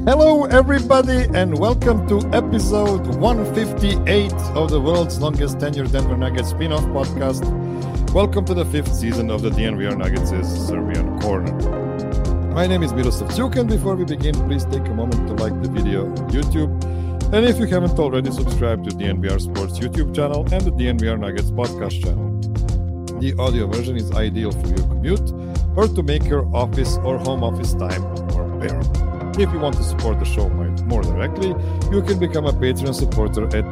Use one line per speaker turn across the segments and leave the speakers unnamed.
Hello, everybody, and welcome to episode 158 of the world's longest tenured Denver Nuggets spin-off podcast. Welcome to the fifth season of the DNVR Nuggets' Serbian Corner. My name is Miroslav Cuk, and before we begin, please take a moment to like the video on YouTube. And if you haven't already, subscribe to the DNVR Sports YouTube channel and the DNVR Nuggets podcast channel. The audio version is ideal for your commute or to make your office or home office time more bearable. If you want to support the show more directly, you can become a Patreon supporter at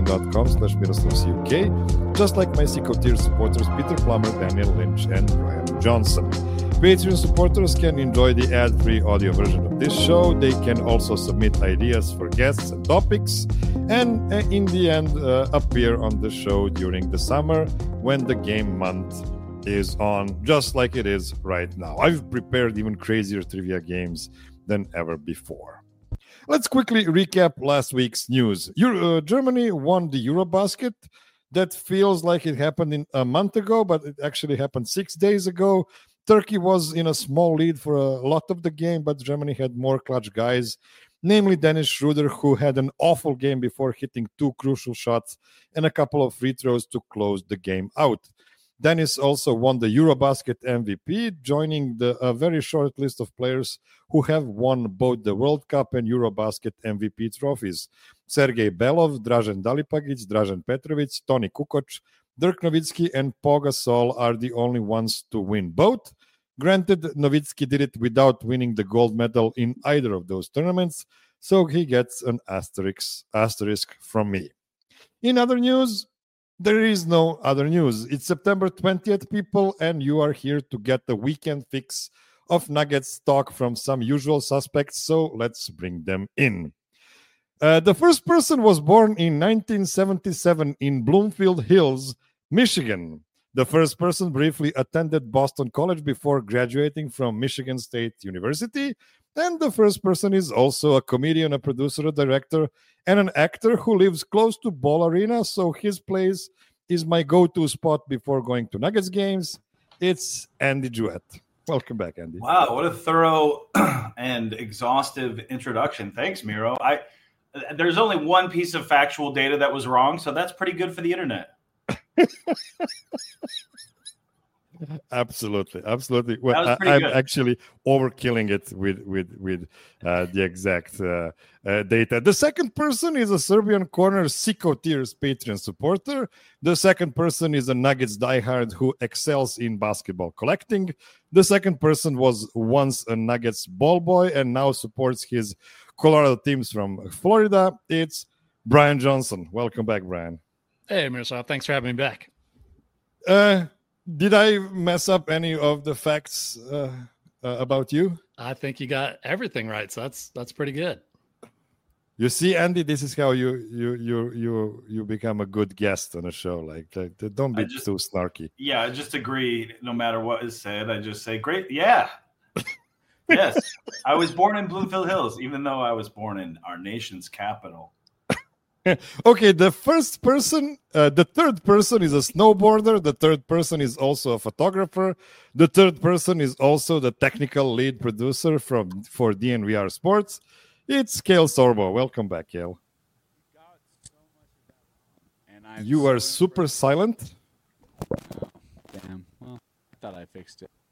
patreon.com/MiroslavCuk, just like my Seco tier supporters Peter Plummer, Daniel Lynch, and Brian Johnson. Patreon supporters can enjoy the ad-free audio version of this show. They can also submit ideas for guests and topics, and in the end, appear on the show during the summer when the game month is on, just like it is right now. I've prepared even crazier trivia games than ever before. Let's quickly recap last week's news. Germany won the Eurobasket. That feels like it happened a month ago, but it actually happened 6 days ago. Turkey was in a small lead for a lot of the game, but Germany had more clutch guys, namely Dennis Schroeder, who had an awful game before hitting two crucial shots and a couple of free throws to close the game out. Dennis also won the Eurobasket MVP, joining a very short list of players who have won both the World Cup and Eurobasket MVP trophies. Sergej Belov, Dražen Dalipagic, Dražen Petrovic, Toni Kukoc, Dirk Nowitzki, and Pau Gasol are the only ones to win both. Granted, Nowitzki did it without winning the gold medal in either of those tournaments, so he gets an asterisk from me. In other news, there is no other news. It's September 20th, people, and you are here to get the weekend fix of Nuggets talk from some usual suspects, so let's bring them in. The first person was born in 1977 in Bloomfield Hills, Michigan. The first person briefly attended Boston College before graduating from Michigan State University. And the first person is also a comedian, a producer, a director, and an actor who lives close to Ball Arena, so his place is my go-to spot before going to Nuggets games. It's Andy Jewett. Welcome back, Andy.
Wow, what a thorough and exhaustive introduction. Thanks, Miro. There's only one piece of factual data that was wrong, so that's pretty good for the internet.
Absolutely. Well, I'm actually overkilling it with the exact data. The second person is a Serbian Corner Seco Tiers Patreon supporter. The second person is a Nuggets diehard who excels in basketball collecting. The second person was once a Nuggets ball boy and now supports his Colorado teams from Florida. It's Brian Johnson. Welcome back, Brian.
Hey, Miroslav. Thanks for having me back.
Did I mess up any of the facts about you?
I think you got everything right, so that's pretty good.
You see, Andy, this is how you become a good guest on a show. Like don't be too snarky.
Yeah, I just agree. No matter what is said, I just say, "Great, yeah, yes." I was born in Bloomfield Hills, even though I was born in our nation's capital.
Okay, the third person is a snowboarder. The third person is also a photographer. The third person is also the technical lead producer for DNVR Sports. It's Cale Sorbo. Welcome back, Cale. You are super silent.
Oh, damn. Well, I thought I fixed it.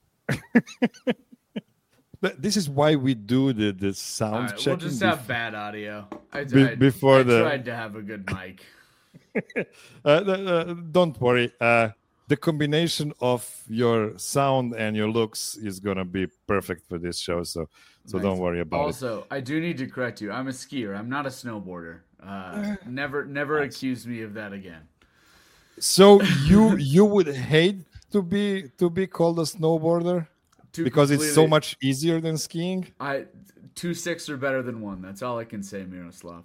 But this is why we do the sound checking.
We'll just have bad audio. I tried to have a good mic.
Don't worry. The combination of your sound and your looks is going to be perfect for this show. So nice. Don't worry about it.
Also, I do need to correct you. I'm a skier. I'm not a snowboarder. Never accuse me of that again.
So you would hate to be called a snowboarder? Because it's so much easier than skiing?
2 6 are better than 1. That's all I can say, Miroslav.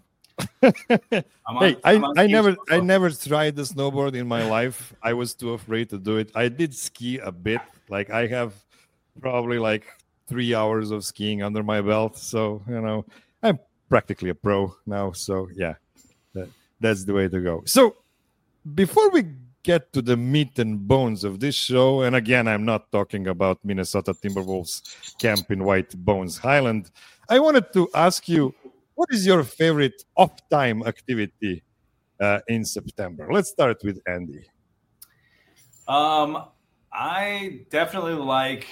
I never tried the snowboard in my life. I was too afraid to do it. I did ski a bit. Like I have probably 3 hours of skiing under my belt. So, I'm practically a pro now. So, yeah, that's the way to go. So, before we get to the meat and bones of this show, and again, I'm not talking about Minnesota Timberwolves camp in White Bones Highland. I wanted to ask you, what is your favorite off-time activity in September? Let's start with Andy.
I definitely like,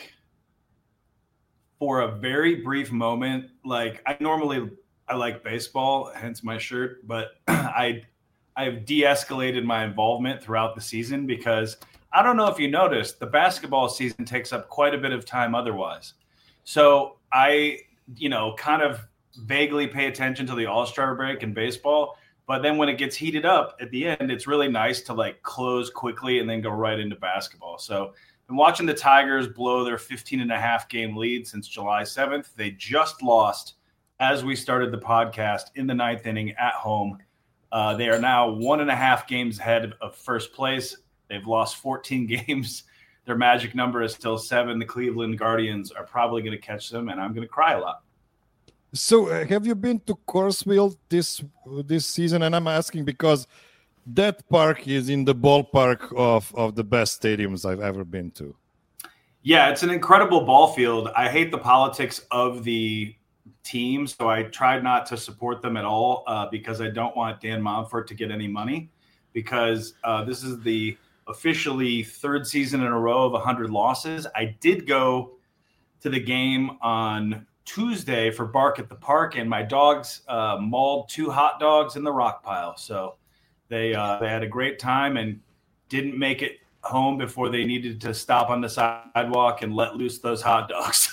for a very brief moment, like I like baseball, hence my shirt, but I've de-escalated my involvement throughout the season because I don't know if you noticed, the basketball season takes up quite a bit of time otherwise. So I, kind of vaguely pay attention to the All-Star break in baseball, but then when it gets heated up at the end, it's really nice to like close quickly and then go right into basketball. So I'm watching the Tigers blow their 15.5 game lead since July 7th. They just lost as we started the podcast in the 9th inning at home. They are now 1.5 games ahead of first place. They've lost 14 games. Their magic number is still 7. The Cleveland Guardians are probably going to catch them, and I'm going to cry a lot.
So have you been to Coors this season? And I'm asking because that park is in the ballpark of the best stadiums I've ever been to.
Yeah, it's an incredible ball field. I hate the politics of the team, so I tried not to support them at all because I don't want Dan Monfort to get any money because this is the officially 3rd season in a row of 100 losses. I did go to the game on Tuesday for Bark at the Park, and my dogs mauled 2 hot dogs in the rock pile. So they had a great time and didn't make it home before they needed to stop on the sidewalk and let loose those hot dogs.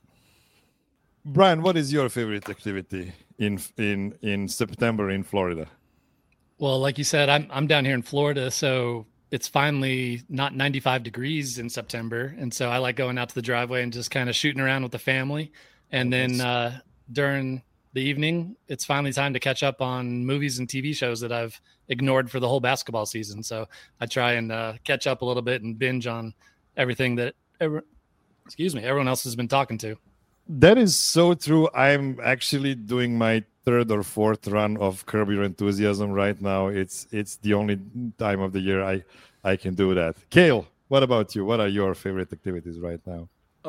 Brian, what is your favorite activity in September in Florida?
Well, like you said, I'm down here in Florida, so it's finally not 95 degrees in September, and so I like going out to the driveway and just kind of shooting around with the family. And then during the evening, it's finally time to catch up on movies and TV shows that I've ignored for the whole basketball season. So I try and catch up a little bit and binge on everything that everyone else has been talking to.
That is so true. I'm actually doing my 3rd or 4th run of Curb Your Enthusiasm right now. It's the only time of the year I can do that. Kale, what about you? What are your favorite activities right now?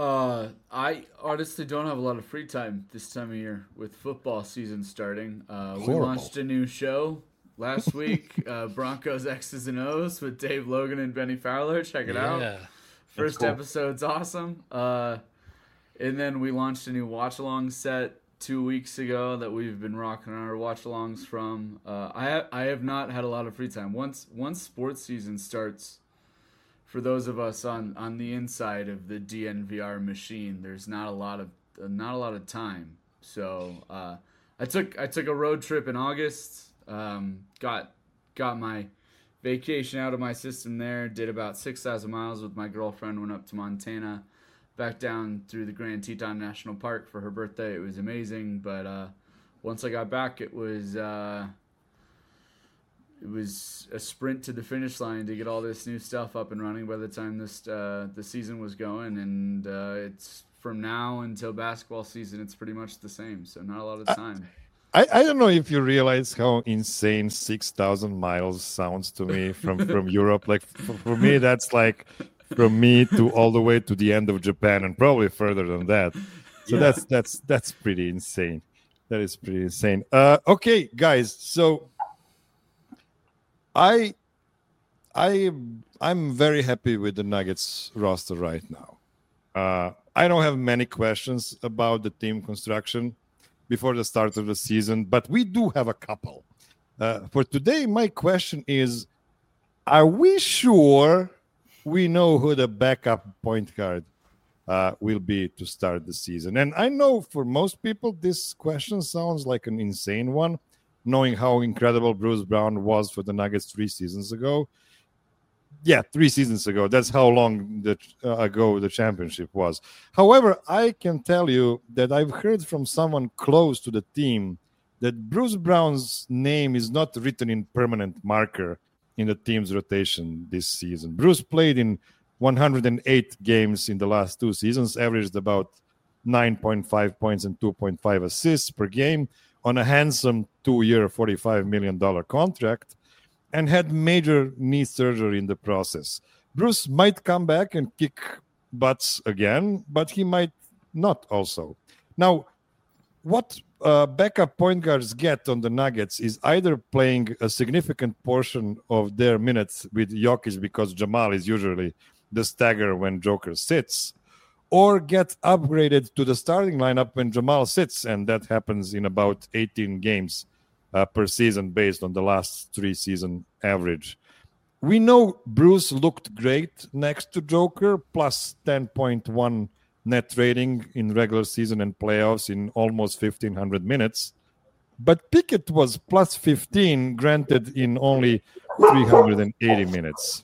I honestly don't have a lot of free time this time of year with football season starting. We launched a new show last week, Broncos X's and O's with Dave Logan and Benny Fowler. Check it out. First cool. Episode's awesome. And then we launched a new watch-along set 2 weeks ago that we've been rocking our watch-alongs from. I have not had a lot of free time. Once sports season starts, for those of us on the inside of the DNVR machine, there's not a lot of time. So I took a road trip in August. Got my vacation out of my system there. Did about 6,000 miles with my girlfriend. Went up to Montana, back down through the Grand Teton National Park for her birthday. It was amazing. But once I got back, it was a sprint to the finish line to get all this new stuff up and running by the time the season was going. And it's from now until basketball season, it's pretty much the same. So not a lot of time.
I don't know if you realize how insane 6,000 miles sounds to me from Europe. Like for me, that's like from me to all the way to the end of Japan and probably further than that. So yeah. that's pretty insane. That is pretty insane. Okay, guys. So I'm very happy with the Nuggets roster right now. I don't have many questions about the team construction before the start of the season, but we do have a couple. For today, my question is, are we sure we know who the backup point guard will be to start the season? And I know for most people, this question sounds like an insane one, knowing how incredible Bruce Brown was for the Nuggets 3 seasons ago. Yeah, 3 seasons ago. That's how long ago the championship was. However, I can tell you that I've heard from someone close to the team that Bruce Brown's name is not written in permanent marker in the team's rotation this season. Bruce played in 108 games in the last 2 seasons, averaged about 9.5 points and 2.5 assists per game on a handsome 2-year, $45 million contract, and had major knee surgery in the process. Bruce might come back and kick butts again, but he might not also. Now, what backup point guards get on the Nuggets is either playing a significant portion of their minutes with Jokic because Jamal is usually the stagger when Joker sits, or get upgraded to the starting lineup when Jamal sits, and that happens in about 18 games per season based on the last 3-season average. We know Bruce looked great next to Joker, plus 10.1 net rating in regular season and playoffs in almost 1,500 minutes. But Pickett was plus 15, granted in only 380 minutes.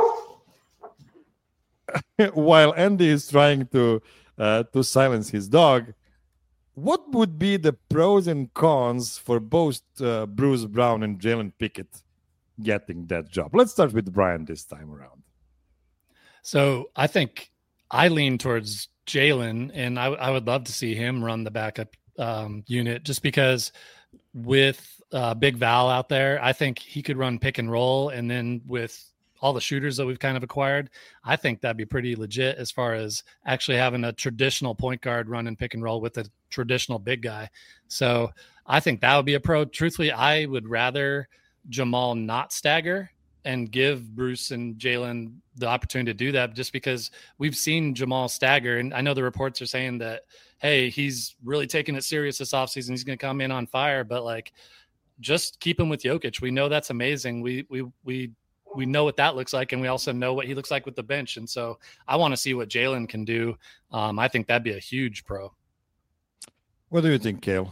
While Andy is trying to silence his dog, what would be the pros and cons for both Bruce Brown and Jalen Pickett getting that job? Let's start with Brian this time around.
So I think I lean towards Jalen, and I would love to see him run the backup unit, just because with Big Val out there, I think he could run pick and roll, and then with all the shooters that we've kind of acquired, I think that'd be pretty legit as far as actually having a traditional point guard run and pick and roll with a traditional big guy. So I think that would be a pro. Truthfully, I would rather Jamal not stagger and give Bruce and Jalen the opportunity to do that, just because we've seen Jamal stagger. And I know the reports are saying that, hey, he's really taking it serious this offseason. He's going to come in on fire, but like, just keep him with Jokic. We know that's amazing. We know what that looks like, and we also know what he looks like with the bench. And so I want to see what Jalen can do. I think that'd be a huge pro.
What do you think, Cale?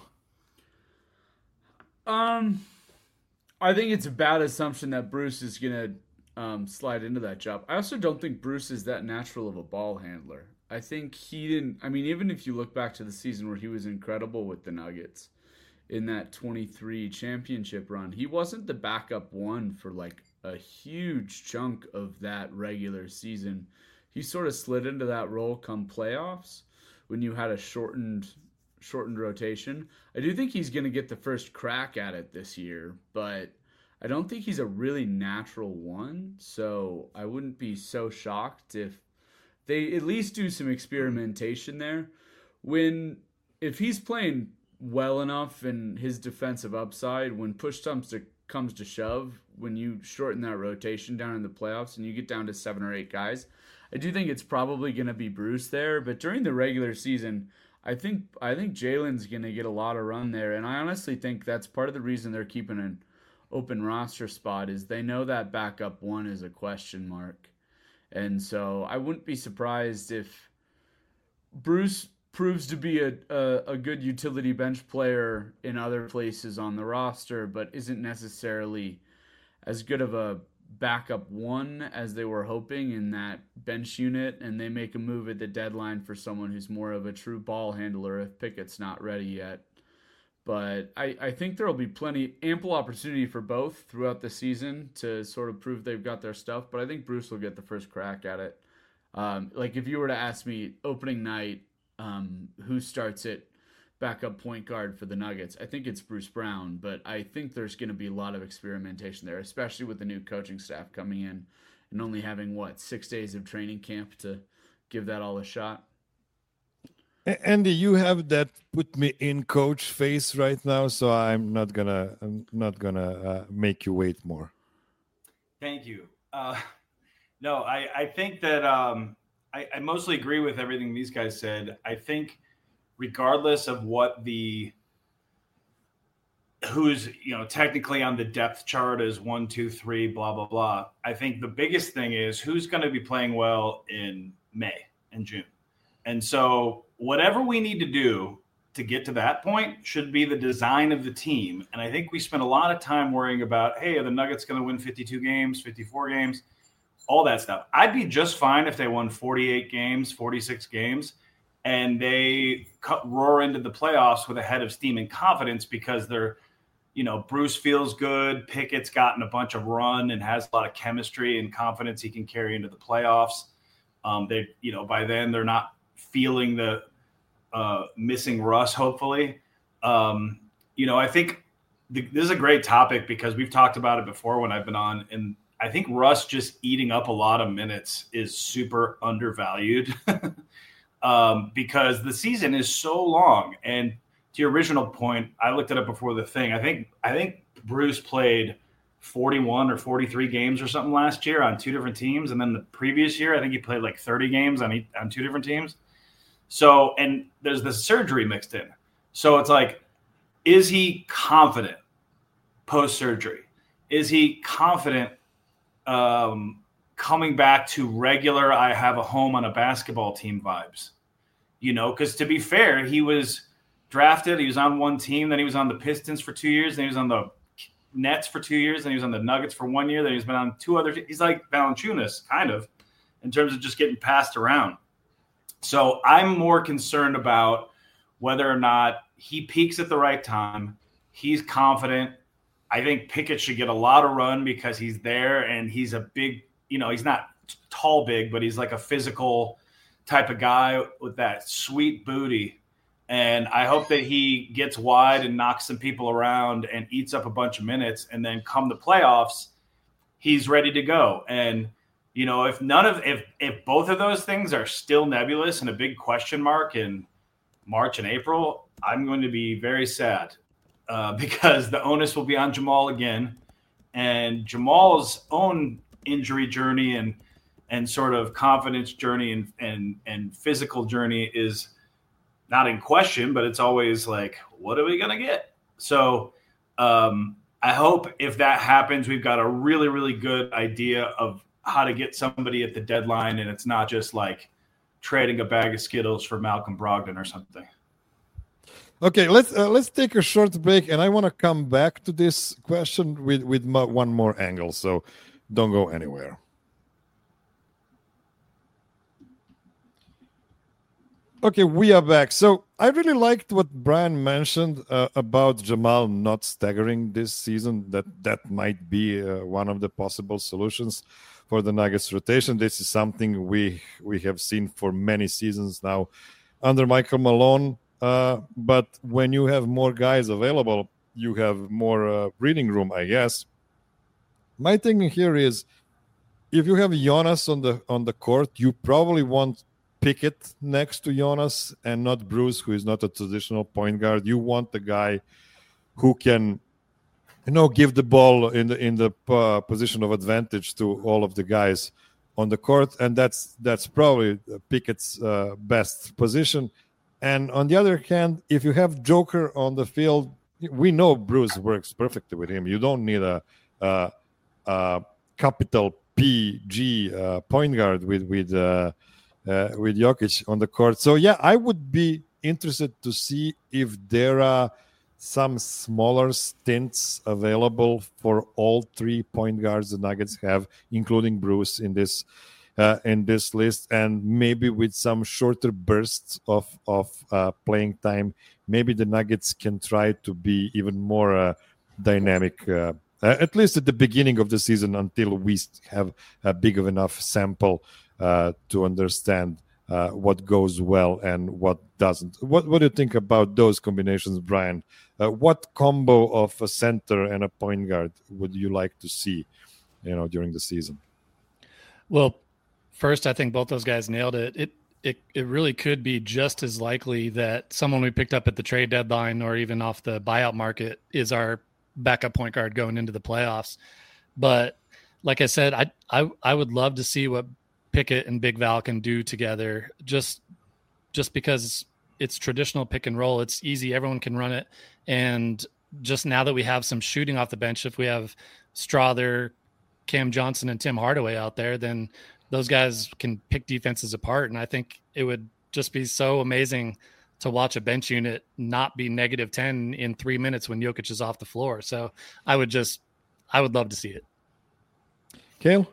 I think it's a bad assumption that Bruce is going to slide into that job. I also don't think Bruce is that natural of a ball handler. I think he didn't. I mean, even if you look back to the season where he was incredible with the Nuggets in that 23 championship run, he wasn't the backup one for like a huge chunk of that regular season. He sort of slid into that role come playoffs when you had a shortened rotation. I do think he's going to get the first crack at it this year, but I don't think he's a really natural one. So I wouldn't be so shocked if they at least do some experimentation there. If he's playing well enough in his defensive upside, when push comes to shove, when you shorten that rotation down in the playoffs and you get down to 7 or 8 guys, I do think it's probably going to be Bruce there. But during the regular season, I think Jalen's going to get a lot of run there. And I honestly think that's part of the reason they're keeping an open roster spot, is they know that backup one is a question mark. And so I wouldn't be surprised if Bruce proves to be a good utility bench player in other places on the roster, but isn't necessarily as good of a backup one as they were hoping in that bench unit, and they make a move at the deadline for someone who's more of a true ball handler if Pickett's not ready yet. But I think there will be ample opportunity for both throughout the season to sort of prove they've got their stuff, but I think Bruce will get the first crack at it. Like if you were to ask me opening night, who starts at backup point guard for the Nuggets, I think it's Bruce Brown, but I think there's going to be a lot of experimentation there, especially with the new coaching staff coming in and only having 6 days of training camp to give that all a shot.
Andy, you have that put me in coach face right now, so I'm not gonna make you wait more.
Thank you. No, I think that I mostly agree with everything these guys said. I think regardless of who's technically on the depth chart is 1, 2, 3, blah blah blah, I think the biggest thing is who's going to be playing well in May and June. And so whatever we need to do to get to that point should be the design of the team. And I think we spent a lot of time worrying about, hey, are the Nuggets going to win 52 games, 54 games, all that stuff. I'd be just fine if they won 48 games, 46 games, and they roar into the playoffs with a head of steam and confidence because they're, Bruce feels good. Pickett's gotten a bunch of run and has a lot of chemistry and confidence he can carry into the playoffs. By then they're not feeling the missing Russ, hopefully. I think this is a great topic because we've talked about it before when I've been on, and I think Russ just eating up a lot of minutes is super undervalued because the season is so long and your original point, I looked it up before the thing. I think Bruce played 41 or 43 games or something last year on 2 different teams, and then the previous year I think he played like 30 games on 2 different teams. So, and there's the surgery mixed in. So it's like, is he confident post-surgery? Is he confident coming back to regular I have a home on a basketball team vibes? Because to be fair, he was drafted. He was on one team. Then he was on the Pistons for 2 years. Then he was on the Nets for 2 years. Then he was on the Nuggets for 1 year. Then he's been on 2 other – he's like Valanciunas, kind of, in terms of just getting passed around. So I'm more concerned about whether or not he peaks at the right time. He's confident. I think Pickett should get a lot of run because he's there and he's a big – he's not tall big, but he's like a physical type of guy with that sweet booty. And I hope that he gets wide and knocks some people around and eats up a bunch of minutes. And then come the playoffs, he's ready to go. And, if both of those things are still nebulous and a big question mark in March and April, I'm going to be very sad because the onus will be on Jamal again. And Jamal's own injury journey and sort of confidence journey and physical journey is not in question, but it's always like, what are we going to get? So I hope if that happens, we've got a really, really good idea of how to get somebody at the deadline. And it's not just like trading a bag of Skittles for Malcolm Brogdon or something.
Okay, let's take a short break. And I want to come back to this question with one more angle. So don't go anywhere. Okay, we are back. So I really liked what Brian mentioned about Jamal not staggering this season. That might be one of the possible solutions for the Nuggets rotation. This is something we have seen for many seasons now under Michael Malone. But when you have more guys available, you have more breathing room, I guess. My thing here is, if you have Jonas on the court, you probably want Pickett next to Jonas and not Bruce, who is not a traditional point guard. You want the guy who can, give the ball in the position of advantage to all of the guys on the court, and that's probably Pickett's best position. And on the other hand, if you have Joker on the field, we know Bruce works perfectly with him. You don't need a capital PG point guard with Jokic on the court. So, yeah, I would be interested to see if there are some smaller stints available for all 3 point guards the Nuggets have, including Bruce in this list, and maybe with some shorter bursts of playing time, maybe the Nuggets can try to be even more dynamic, at least at the beginning of the season, until we have a big of enough sample to understand what goes well and what doesn't. What do you think about those combinations, Brian? What combo of a center and a point guard would you like to see, during the season?
Well, first, I think both those guys nailed it. It really could be just as likely that someone we picked up at the trade deadline or even off the buyout market is our backup point guard going into the playoffs. But like I said, I would love to see what Pickett and Big Val can do together, just because it's traditional pick and roll. It's easy. Everyone can run it. And just now that we have some shooting off the bench, if we have Strother, Cam Johnson, and Tim Hardaway out there, then those guys can pick defenses apart. And I think it would just be so amazing to watch a bench unit not be -10 in 3 minutes when Jokic is off the floor. So I would love to see it.
Cale?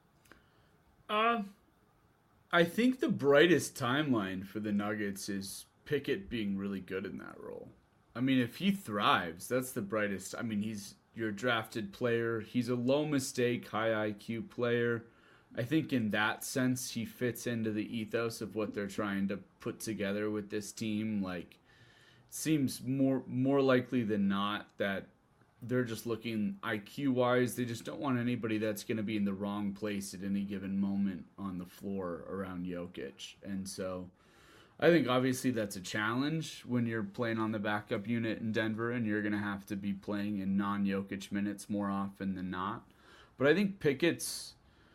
I think the brightest timeline for the Nuggets is Pickett being really good in that role. I mean, if he thrives, that's the brightest. I mean, he's your drafted player. He's a low mistake, high IQ player. I think in that sense, he fits into the ethos of what they're trying to put together with this team. Like, seems more likely than not that they're just looking IQ-wise. They just don't want anybody that's going to be in the wrong place at any given moment on the floor around Jokic. And so I think obviously that's a challenge when you're playing on the backup unit in Denver, and you're going to have to be playing in non-Jokic minutes more often than not. But I think Pickett's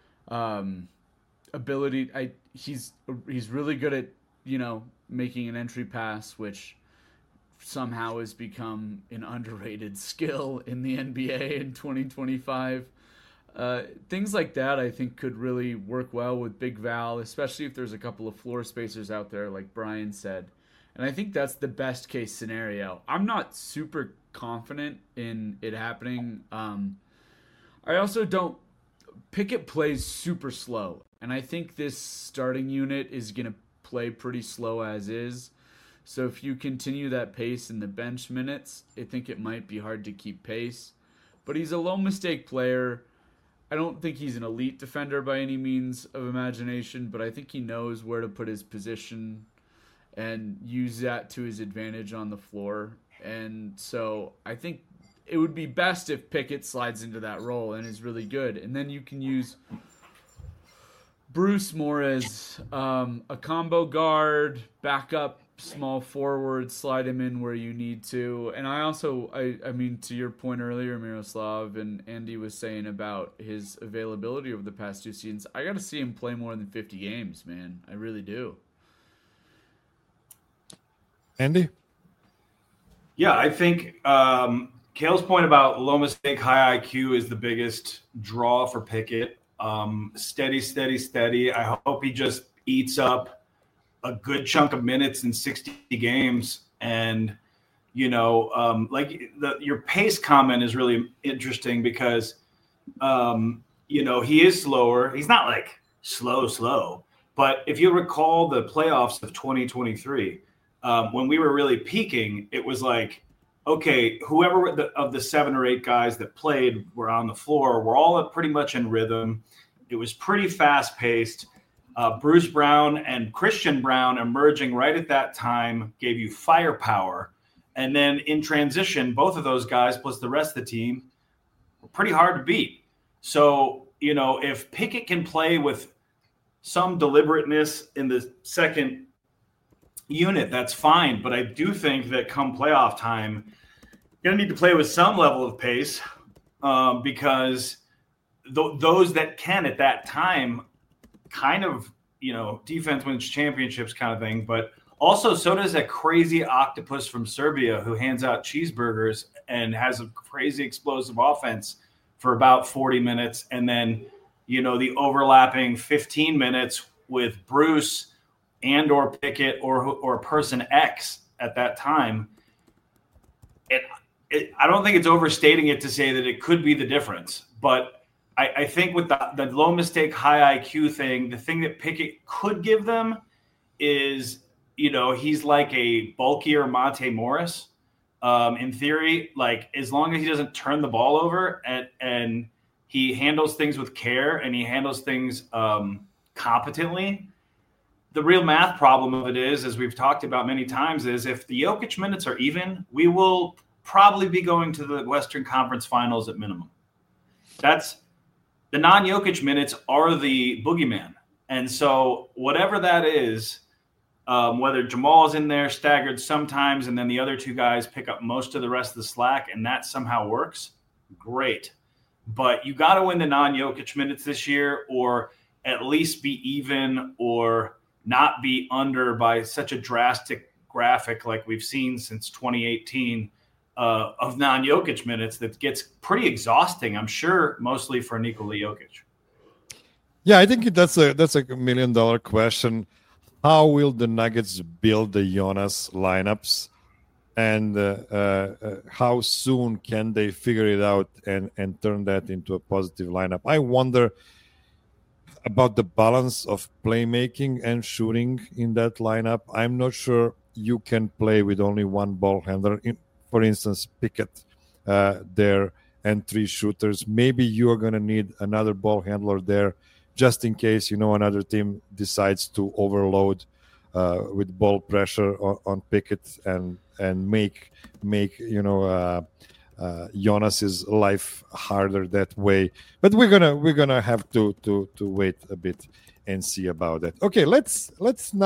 ability, he's really good at, making an entry pass, which somehow has become an underrated skill in the NBA in 2025. Things like that I think could really work well with Big Val, especially if there's a couple of floor spacers out there like Brian said. And I think that's the best case scenario. I'm not super confident in it happening. I also don't. Pickett plays super slow, and I think this starting unit is going to play pretty slow as is. So if you continue that pace in the bench minutes, I think it might be hard to keep pace. But he's a low mistake player. I don't think he's an elite defender by any means of imagination, but I think he knows where to put his position and use that to his advantage on the floor. And so I think it would be best if Pickett slides into that role and is really good. And then you can use Bruce more as a combo guard, backup, small forward, slide him in where you need to. And I mean, to your point earlier, Miroslav, and Andy was saying about his availability over the past 2 seasons, I got to see him play more than 50 games, man. I really do.
Andy?
Yeah, I think Kale's point about low mistake, high IQ is the biggest draw for Pickett. Steady. I hope he just eats up a good chunk of minutes in 60 games. And, your pace comment is really interesting because, he is slower. He's not like slow. But if you recall the playoffs of 2023, when we were really peaking, it was like, okay, whoever of the 7 or 8 guys that played were on the floor, we're all pretty much in rhythm. It was pretty fast-paced. Bruce Brown and Christian Brown emerging right at that time gave you firepower. And then in transition, both of those guys plus the rest of the team were pretty hard to beat. So, if Pickett can play with some deliberateness in the second unit, that's fine. But I do think that come playoff time, you're going to need to play with some level of pace because those that can at that time kind of, defense wins championships kind of thing. But also so does a crazy octopus from Serbia who hands out cheeseburgers and has a crazy explosive offense for about 40 minutes. And then, the overlapping 15 minutes with Bruce and or Pickett or person X at that time. I don't think it's overstating it to say that it could be the difference. But I think with the low mistake, high IQ thing, the thing that Pickett could give them is, he's like a bulkier Monte Morris in theory. Like, as long as he doesn't turn the ball over and he handles things with care and he handles things competently. The real math problem of it is, as we've talked about many times, is if the Jokic minutes are even, we will probably be going to the Western Conference Finals at minimum. That's the non-Jokic minutes are the boogeyman. And so whatever that is, whether Jamal is in there staggered sometimes and then the other 2 guys pick up most of the rest of the slack and that somehow works, great. But you got to win the non-Jokic minutes this year or at least be even or not be under by such a drastic graphic like we've seen since 2018 of non-Jokic minutes that gets pretty exhausting, I'm sure, mostly for Nikola Jokic.
Yeah, I think that's a $1 million question. How will the Nuggets build the Jonas lineups? And how soon can they figure it out and turn that into a positive lineup? I wonder about the balance of playmaking and shooting in that lineup. I'm not sure you can play with only one ball handler. For instance, Pickett there and 3 shooters. Maybe you're going to need another ball handler there just in case, another team decides to overload with ball pressure on Pickett and make Jonas's life harder that way. But we're gonna have to wait a bit and see about that. Okay, let's now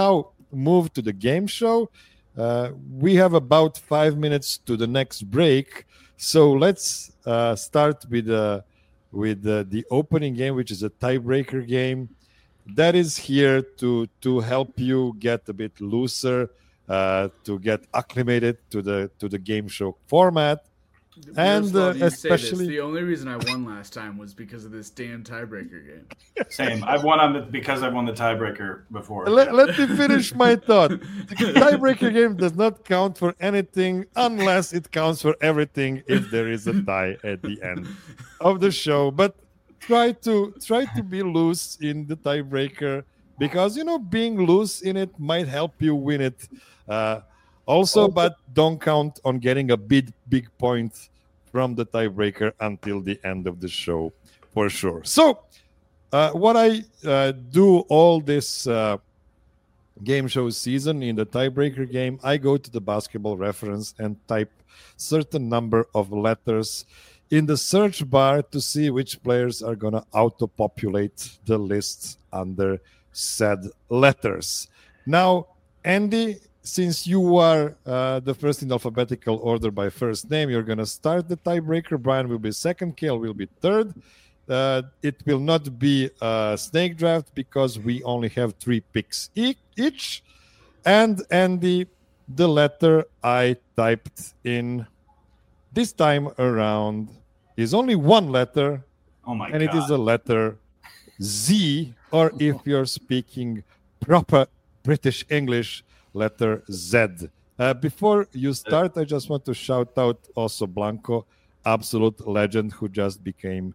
move to the game show. We have about 5 minutes to the next break, so let's start with the opening game, which is a tiebreaker game. That is here to help you get a bit looser, to get acclimated to the game show format. And especially
the only reason I won last time was because of this damn tiebreaker game.
Same. I've won because I've won the tiebreaker before.
Let me finish my thought. The tiebreaker game does not count for anything unless it counts for everything if there is a tie at the end of the show. But try to be loose in the tiebreaker, because being loose in it might help you win it. Also, but don't count on getting a big point from the tiebreaker until the end of the show, for sure. So, what I do all this game show season in the tiebreaker game, I go to the Basketball Reference and type certain number of letters in the search bar to see which players are going to auto-populate the list under said letters. Now, Andy, since you are the first in alphabetical order by first name, you're going to start the tiebreaker. Brian will be second. Kale will be third. It will not be a snake draft because we only have 3 picks each. And Andy, the letter I typed in this time around is only one letter.
Oh my
God.
It
is a letter Z, or if you're speaking proper British English, letter Z. Before you start, I just want to shout out also Blanco, absolute legend, who just became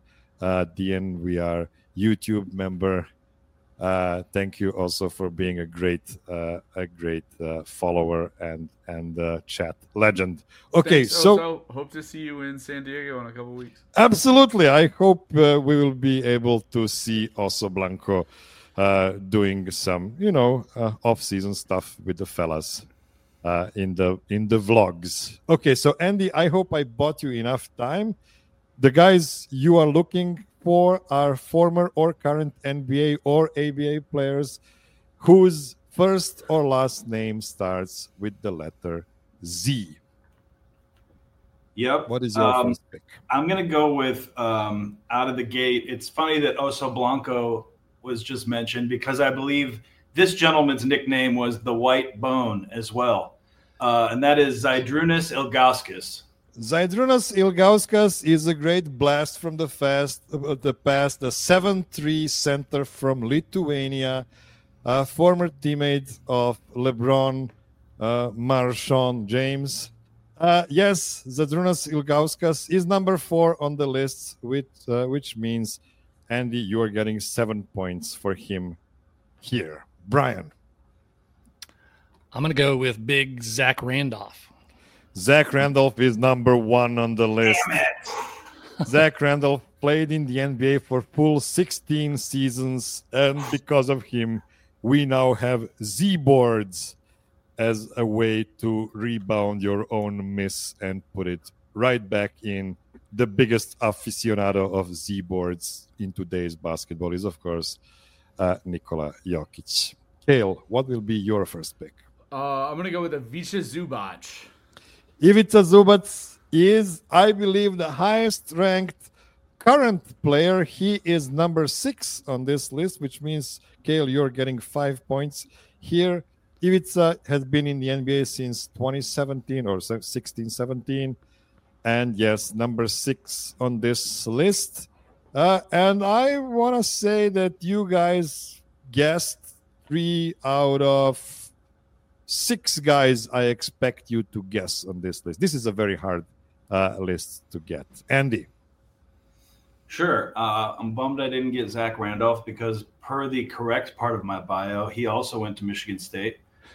DNVR YouTube member. Thank you also for being a great follower and chat legend. Okay,
Thanks,
so
hope to see you in San Diego in a couple weeks.
Absolutely, I hope we will be able to see also Blanco doing some, off-season stuff with the fellas in the vlogs. Okay, so Andy, I hope I bought you enough time. The guys you are looking for are former or current NBA or ABA players whose first or last name starts with the letter Z.
Yep.
What is your first pick?
I'm going to go with out of the gate. It's funny that Oso Blanco was just mentioned because I believe this gentleman's nickname was the White Bone as well. And that is Zydrunas Ilgauskas.
Zydrunas Ilgauskas is a great blast from the past, the 7'3" center from Lithuania, former teammate of LeBron, Marshawn James. Yes, Zydrunas Ilgauskas is number 4 on the list, which means, Andy, you are getting 7 points for him here. Brian.
I'm going to go with big Zach Randolph.
Zach Randolph is number 1 on the list. Zach Randolph played in the NBA for full 16 seasons, and because of him, we now have Z boards as a way to rebound your own miss and put it right back in. The biggest aficionado of Z boards in today's basketball is, of course, Nikola Jokic. Kale, what will be your first pick?
I'm going to go with Ivica Zubac.
Ivica Zubac is, I believe, the highest ranked current player. He is number 6 on this list, which means, Kale, you're getting 5 points here. Ivica has been in the NBA since 2017 or 16-17. And yes, number 6 on this list. And I want to say that you guys guessed 3 out of 6 guys I expect you to guess on this list. This is a very hard list to get. Andy.
Sure. I'm bummed I didn't get Zach Randolph because per the correct part of my bio, he also went to Michigan State.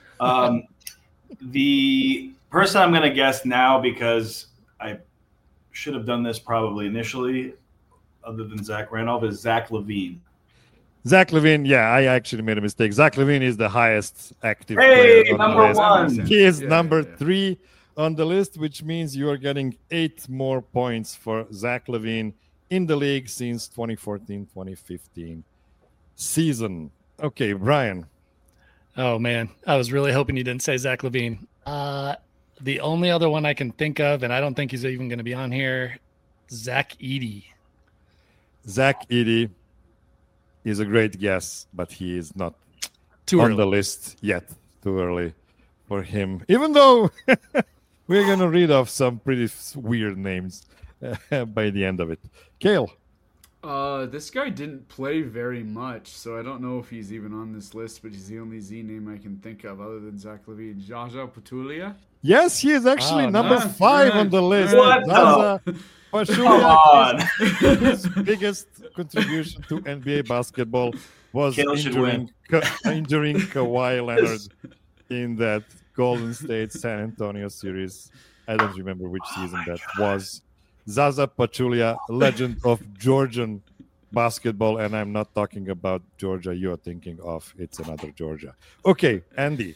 The person I'm going to guess now, because I should have done this probably initially, other than Zach Randolph, is Zach LaVine.
Zach LaVine, yeah, I actually made a mistake. Zach LaVine is the highest active player on
number
the list.
1.
He is number 3 on the list, which means you are getting 8 more points for Zach LaVine in the league since 2014-2015 season. Okay, Brian.
Oh man, I was really hoping you didn't say Zach LaVine. The only other one I can think of, and I don't think he's even going to be on here, Zach Edey.
Zach Edey is a great guess, but he is not
Too
on
early.
the list yet. Too early for him. Even though we're going to read off some pretty weird names by the end of it. Kale.
This guy didn't play very much, so I don't know if he's even on this list, but he's the only Z name I can think of other than Zach LaVine. Jaja Pachulia?
Yes, he is actually
Oh,
number
nice.
5 on the list.
What
Zaza
Come
Pachulia,
on.
his biggest contribution to NBA basketball was
Kale should
injuring Kawhi Leonard in that Golden State San Antonio series. I don't remember which season that was. Zaza Pachulia, legend of Georgian basketball, and I'm not talking about Georgia you're thinking of. It's another Georgia. Okay, Andy.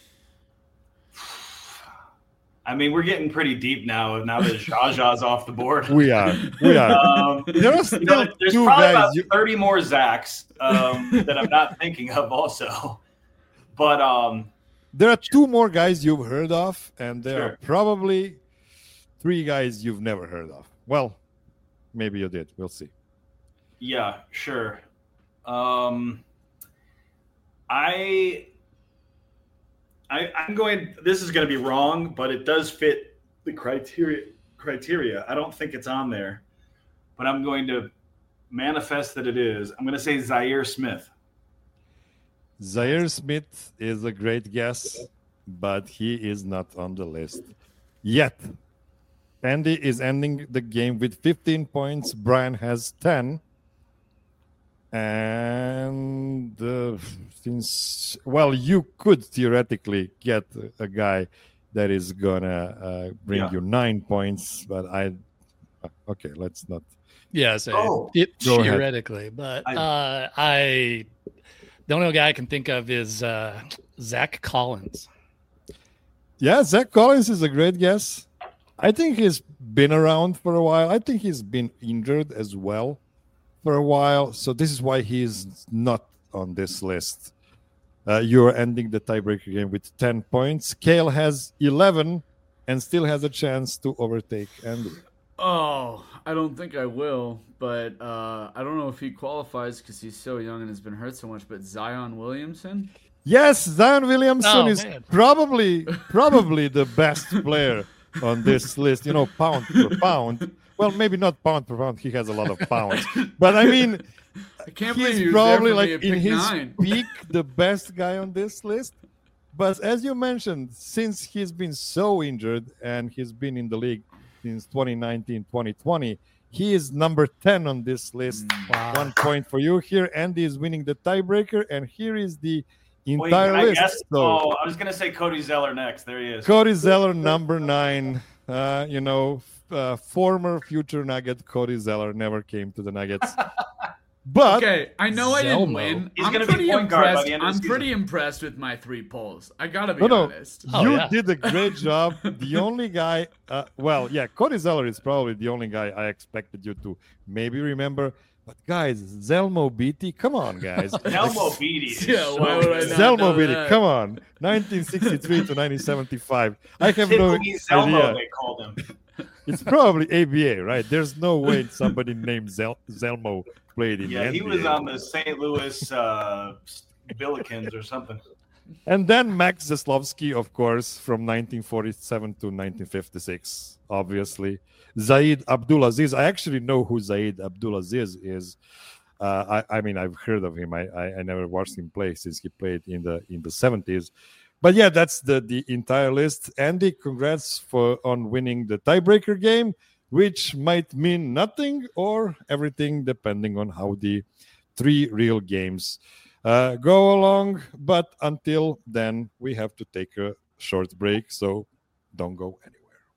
I mean, we're getting pretty deep now that Jaja's off the board.
We are. There are still
There's
two
probably
guys.
about 30 more Zachs that I'm not thinking of also. But
There are 2 more guys you've heard of, and there
Sure.
are probably 3 guys you've never heard of. Well, maybe you did. We'll see.
yeah, sure. I'm going. This is going to be wrong, but it does fit the criteria. I don't think it's on there, but I'm going to manifest that it is. I'm going to say Zaire Smith.
Zaire Smith is a great guess, but he is not on the list yet. Andy is ending the game with 15 points. Brian has 10. And since, well, you could theoretically get a guy that is going to bring you 9 points, but okay, let's not.
Yeah, so
Oh,
go ahead.
theoretically, but the only guy I can think of is Zach Collins.
Yeah, Zach Collins is a great guess. I think he's been around for a while. I think he's been injured as well for a while. So this is why he's not on this list. You're ending the tiebreaker game with 10 points. Kale has 11 and still has a chance to overtake Andy.
Oh, I don't think I will, but I don't know if he qualifies because he's so young and has been hurt so much, but Zion Williamson?
Yes, Zion Williamson is
man.
probably the best player on this list, pound per pound. Well, maybe not pound per pound. He has a lot of pounds. But I mean,
I can't believe he
he's
was there
probably
for me
like
at
in
pick
his
9.
peak, the best guy on this list. But as you mentioned, since he's been so injured and he's been in the league since 2019, 2020, he is number 10 on this list.
Wow.
1 point for you here. Andy is winning the tiebreaker, and here is the
wait,
entire
can I
list.
guess?
So,
Oh, I was going to say Cody Zeller next. There he is.
Cody Zeller, number 9. Former future Nugget Cody Zeller never came to the Nuggets. But
Okay, I know I didn't
Zelmo.
win.
He's
I'm
gonna be
pretty
point guard by
impressed.
the end of the
I'm
season.
pretty impressed with my 3 polls. I gotta be
No.
honest.
Oh,
you
yeah.
did a great job. The only guy, Cody Zeller is probably the only guy I expected you to maybe remember. But guys, Zelmo Beatty, come on, guys.
Elmo Beatty. is
Yeah,
so
why would I
good.
not?
Zelmo
know
Beatty,
that.
come on. 1963 to 1975. I have no
Tiffany Zelmo,
idea.
they called him.
It's probably ABA, right? There's no way somebody named Zelmo played in
Yeah,
the
he
NBA.
was on the St. Louis Billikens or something.
And then Max Zaslavsky, of course, from 1947 to 1956, obviously. Zaid Abdulaziz. I actually know who Zaid Abdulaziz is. I mean, I've heard of him. I never watched him play since he played in the 70s. But yeah, that's the entire list. Andy, congrats on winning the tiebreaker game, which might mean nothing or everything, depending on how the 3 real games go along. But until then, we have to take a short break, so don't go anywhere.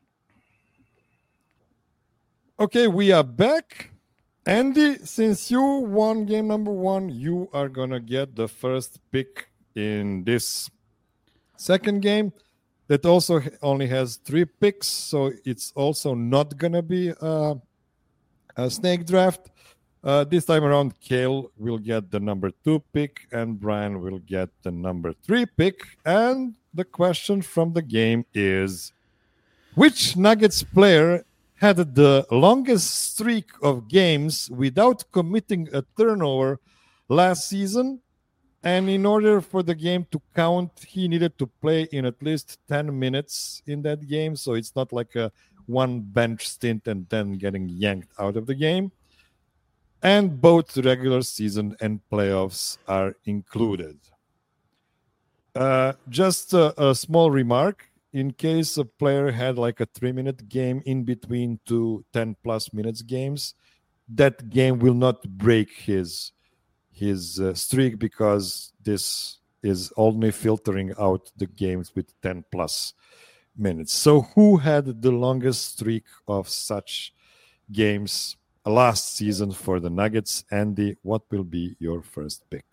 Okay, we are back. Andy, since you won game number 1, you are going to get the first pick in this second game that also only has 3 picks, so it's also not going to be a snake draft. This time around, Kale will get the number 2 pick and Brian will get the number 3 pick. And the question from the game is, which Nuggets player had the longest streak of games without committing a turnover last season? And in order for the game to count, he needed to play in at least 10 minutes in that game. So it's not like a one bench stint and then getting yanked out of the game. And both regular season and playoffs are included. Just a small remark. In case a player had like a 3-minute game in between two 10-plus minutes games, that game will not break his streak because this is only filtering out the games with 10-plus minutes. So who had the longest streak of such games last season for the Nuggets? Andy, what will be your first pick?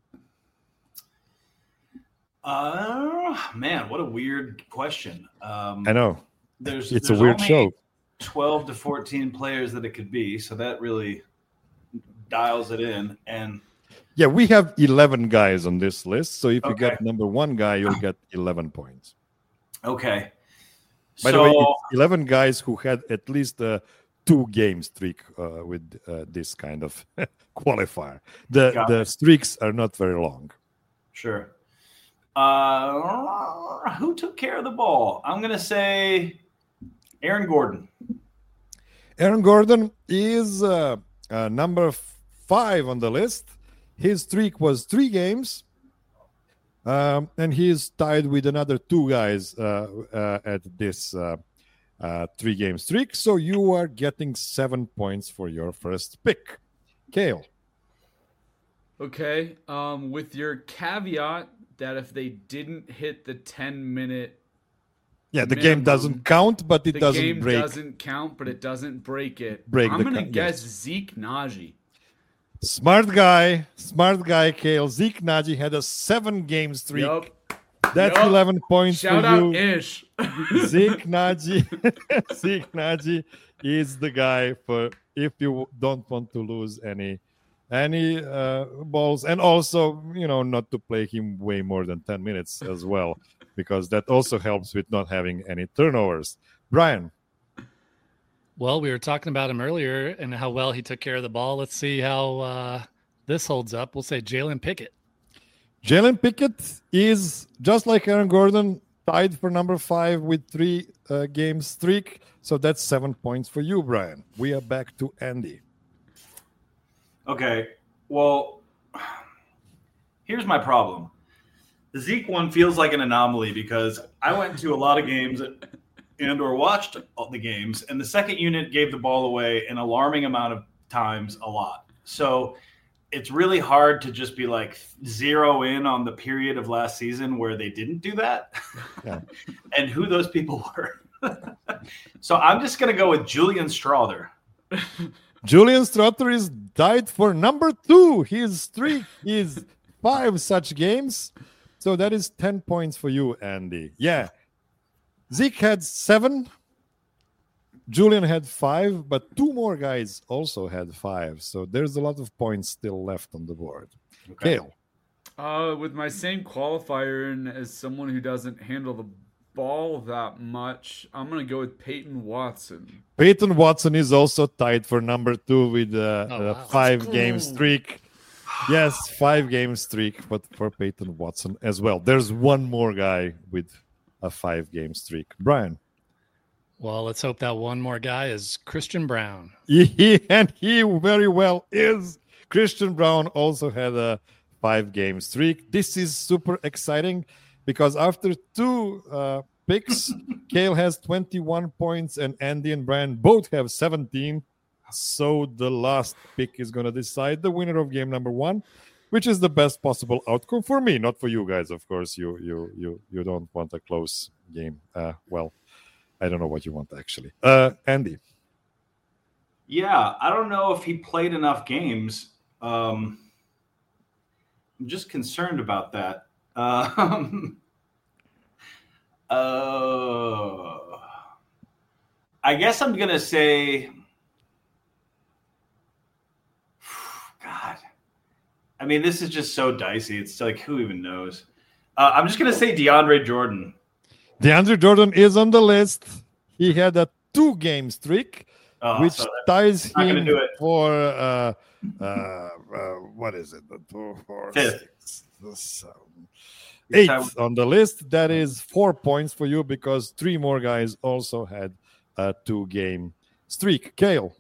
Man, what a weird question.
I know.
There's
a weird show.
12 to 14 players that it could be, so that really dials it in. And
yeah, we have 11 guys on this list. So if you get number 1 guy, you'll get 11 points.
Okay.
By the way, it's 11 guys who had at least a 2-game streak with this kind of qualifier. The streaks are not very long.
Sure. Who took care of the ball? I'm going to say Aaron Gordon.
Aaron Gordon is number 5 on the list. His streak was 3 games. And he is tied with another 2 guys at this 3-game streak. So you are getting 7 points for your first pick. Kale.
Okay. With your caveat that if they didn't hit the 10-minute
the game doesn't count, but it doesn't break.
The game doesn't count, but it doesn't break it. I'm going to guess Zeke Naji.
Smart guy, Kale. Zeke Naji had a 7-game streak.
Yep.
That's 11 points
Shout
for you.
Shout out Ish.
Zeke Naji is the guy for if you don't want to lose any balls, and also not to play him way more than 10 minutes as well, because that also helps with not having any turnovers. Brian.
Well, we were talking about him earlier and how well he took care of the ball. Let's see how this holds up. We'll say Jalen Pickett.
Jalen Pickett is, just like Aaron Gordon, tied for number 5 with 3-game streak. So that's 7 points for you, Brian. We are back to Andy.
Okay, well, here's my problem. The Zeke one feels like an anomaly because I went to a lot of games and or watched the games, and the second unit gave the ball away an alarming amount of times a lot. So it's really hard to just be like zero in on the period of last season where they didn't do that and who those people were. So I'm just going to go with Julian Strawther.
Julian Strawther is tied for number 2. His streak is 5 such games. So that is 10 points for you, Andy. Yeah. Zeke had 7. Julian had 5, but 2 more guys also had 5. So there's a lot of points still left on the board. Okay. Kale.
With my same qualifier and as someone who doesn't handle the ball that much, I'm going to go with Peyton Watson.
Peyton Watson is also tied for number 2 with a 5-game streak. Yes, 5-game streak, but for Peyton Watson as well. There's one more guy with a 5-game streak. Brian.
Well, let's hope that one more guy is Christian Braun.
And he very well is. Christian Braun also had a 5-game streak. This is super exciting because after 2 picks, Kale has 21 points and Andy and Brian both have 17. So the last pick is going to decide the winner of game number 1, which is the best possible outcome for me, not for you guys. Of course, you don't want a close game. Well, I don't know what you want actually. Andy.
Yeah, I don't know if he played enough games. I'm just concerned about that. I guess I'm going to say I mean, this is just so dicey. It's like, who even knows? I'm just going to say DeAndre Jordan.
DeAndre Jordan is on the list. He had a 2-game streak, which ties him for what is it? 2, 4, 6, 7, 8 on the list. That is 4 points for you because 3 more guys also had a 2-game streak. Kale.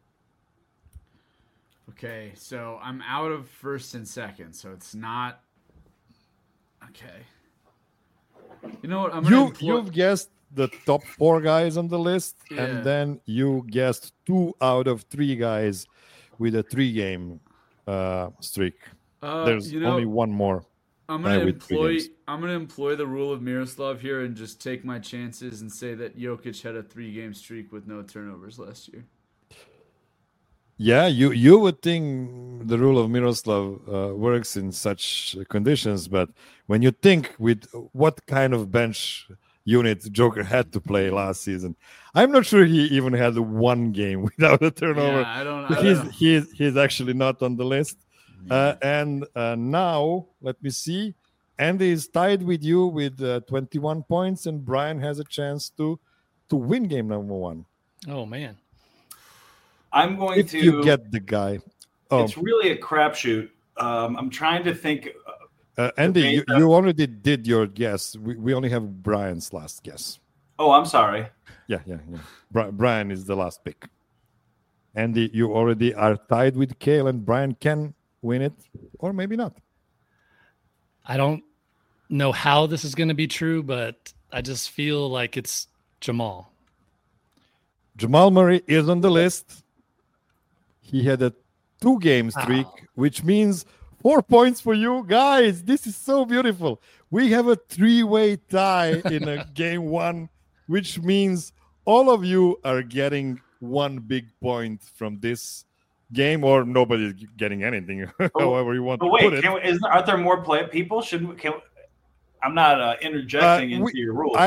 Okay, so I'm out of first and second, so it's not okay. You know what?
You've guessed the top 4 guys on the list, and then you guessed 2 out of 3 guys with a 3-game streak. There's only one more.
I'm gonna employ the rule of Miroslav here and just take my chances and say that Jokic had a 3-game streak with no turnovers last year.
Yeah, you would think the rule of Miroslav works in such conditions, but when you think with what kind of bench unit Joker had to play last season, I'm not sure he even had 1 game without a turnover.
Yeah, I don't
he's actually not on the list. And now, let me see. Andy is tied with you with 21 points, and Brian has a chance to win game number 1.
Oh, man.
I'm going
if you get the guy.
It's really a crapshoot. I'm trying to think.
Andy, you already did your guess. We only have Brian's last guess.
Oh, I'm sorry.
Yeah. Brian is the last pick. Andy, you already are tied with Kale, and Brian can win it, or maybe not.
I don't know how this is going to be true, but I just feel like it's Jamal.
Jamal Murray is on the list. He had a 2-game streak, which means 4 points for you guys. This is so beautiful. We have a 3-way tie in a game 1, which means all of you are getting 1 big point from this game, or nobody's getting anything, however you want to put it.
Aren't there more people? I'm not interjecting into your rules.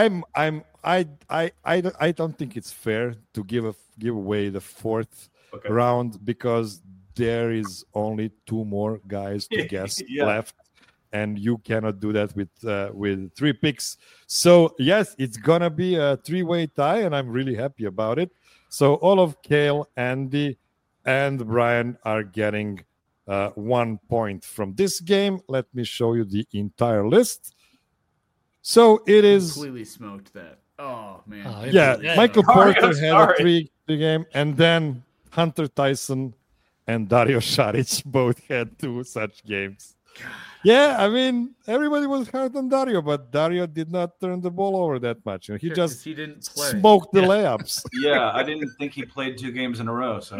I don't think it's fair to give away the 4th round because there is only 2 more guys to guess left, and you cannot do that with 3 picks. So yes, it's gonna be a 3-way tie, and I'm really happy about it. So all of Kale, Andy, and Brian are getting 1 point from this game. Let me show you the entire list. So it is
completely smoked that. Oh man.
Michael Porter had a 3-game, and then Hunter Tyson and Dario Saric both had 2 such games. Yeah, I mean, everybody was hard on Dario, but Dario did not turn the ball over that much. He
he didn't play.
Smoked the layups.
Yeah, I didn't think he played 2 games in a row. So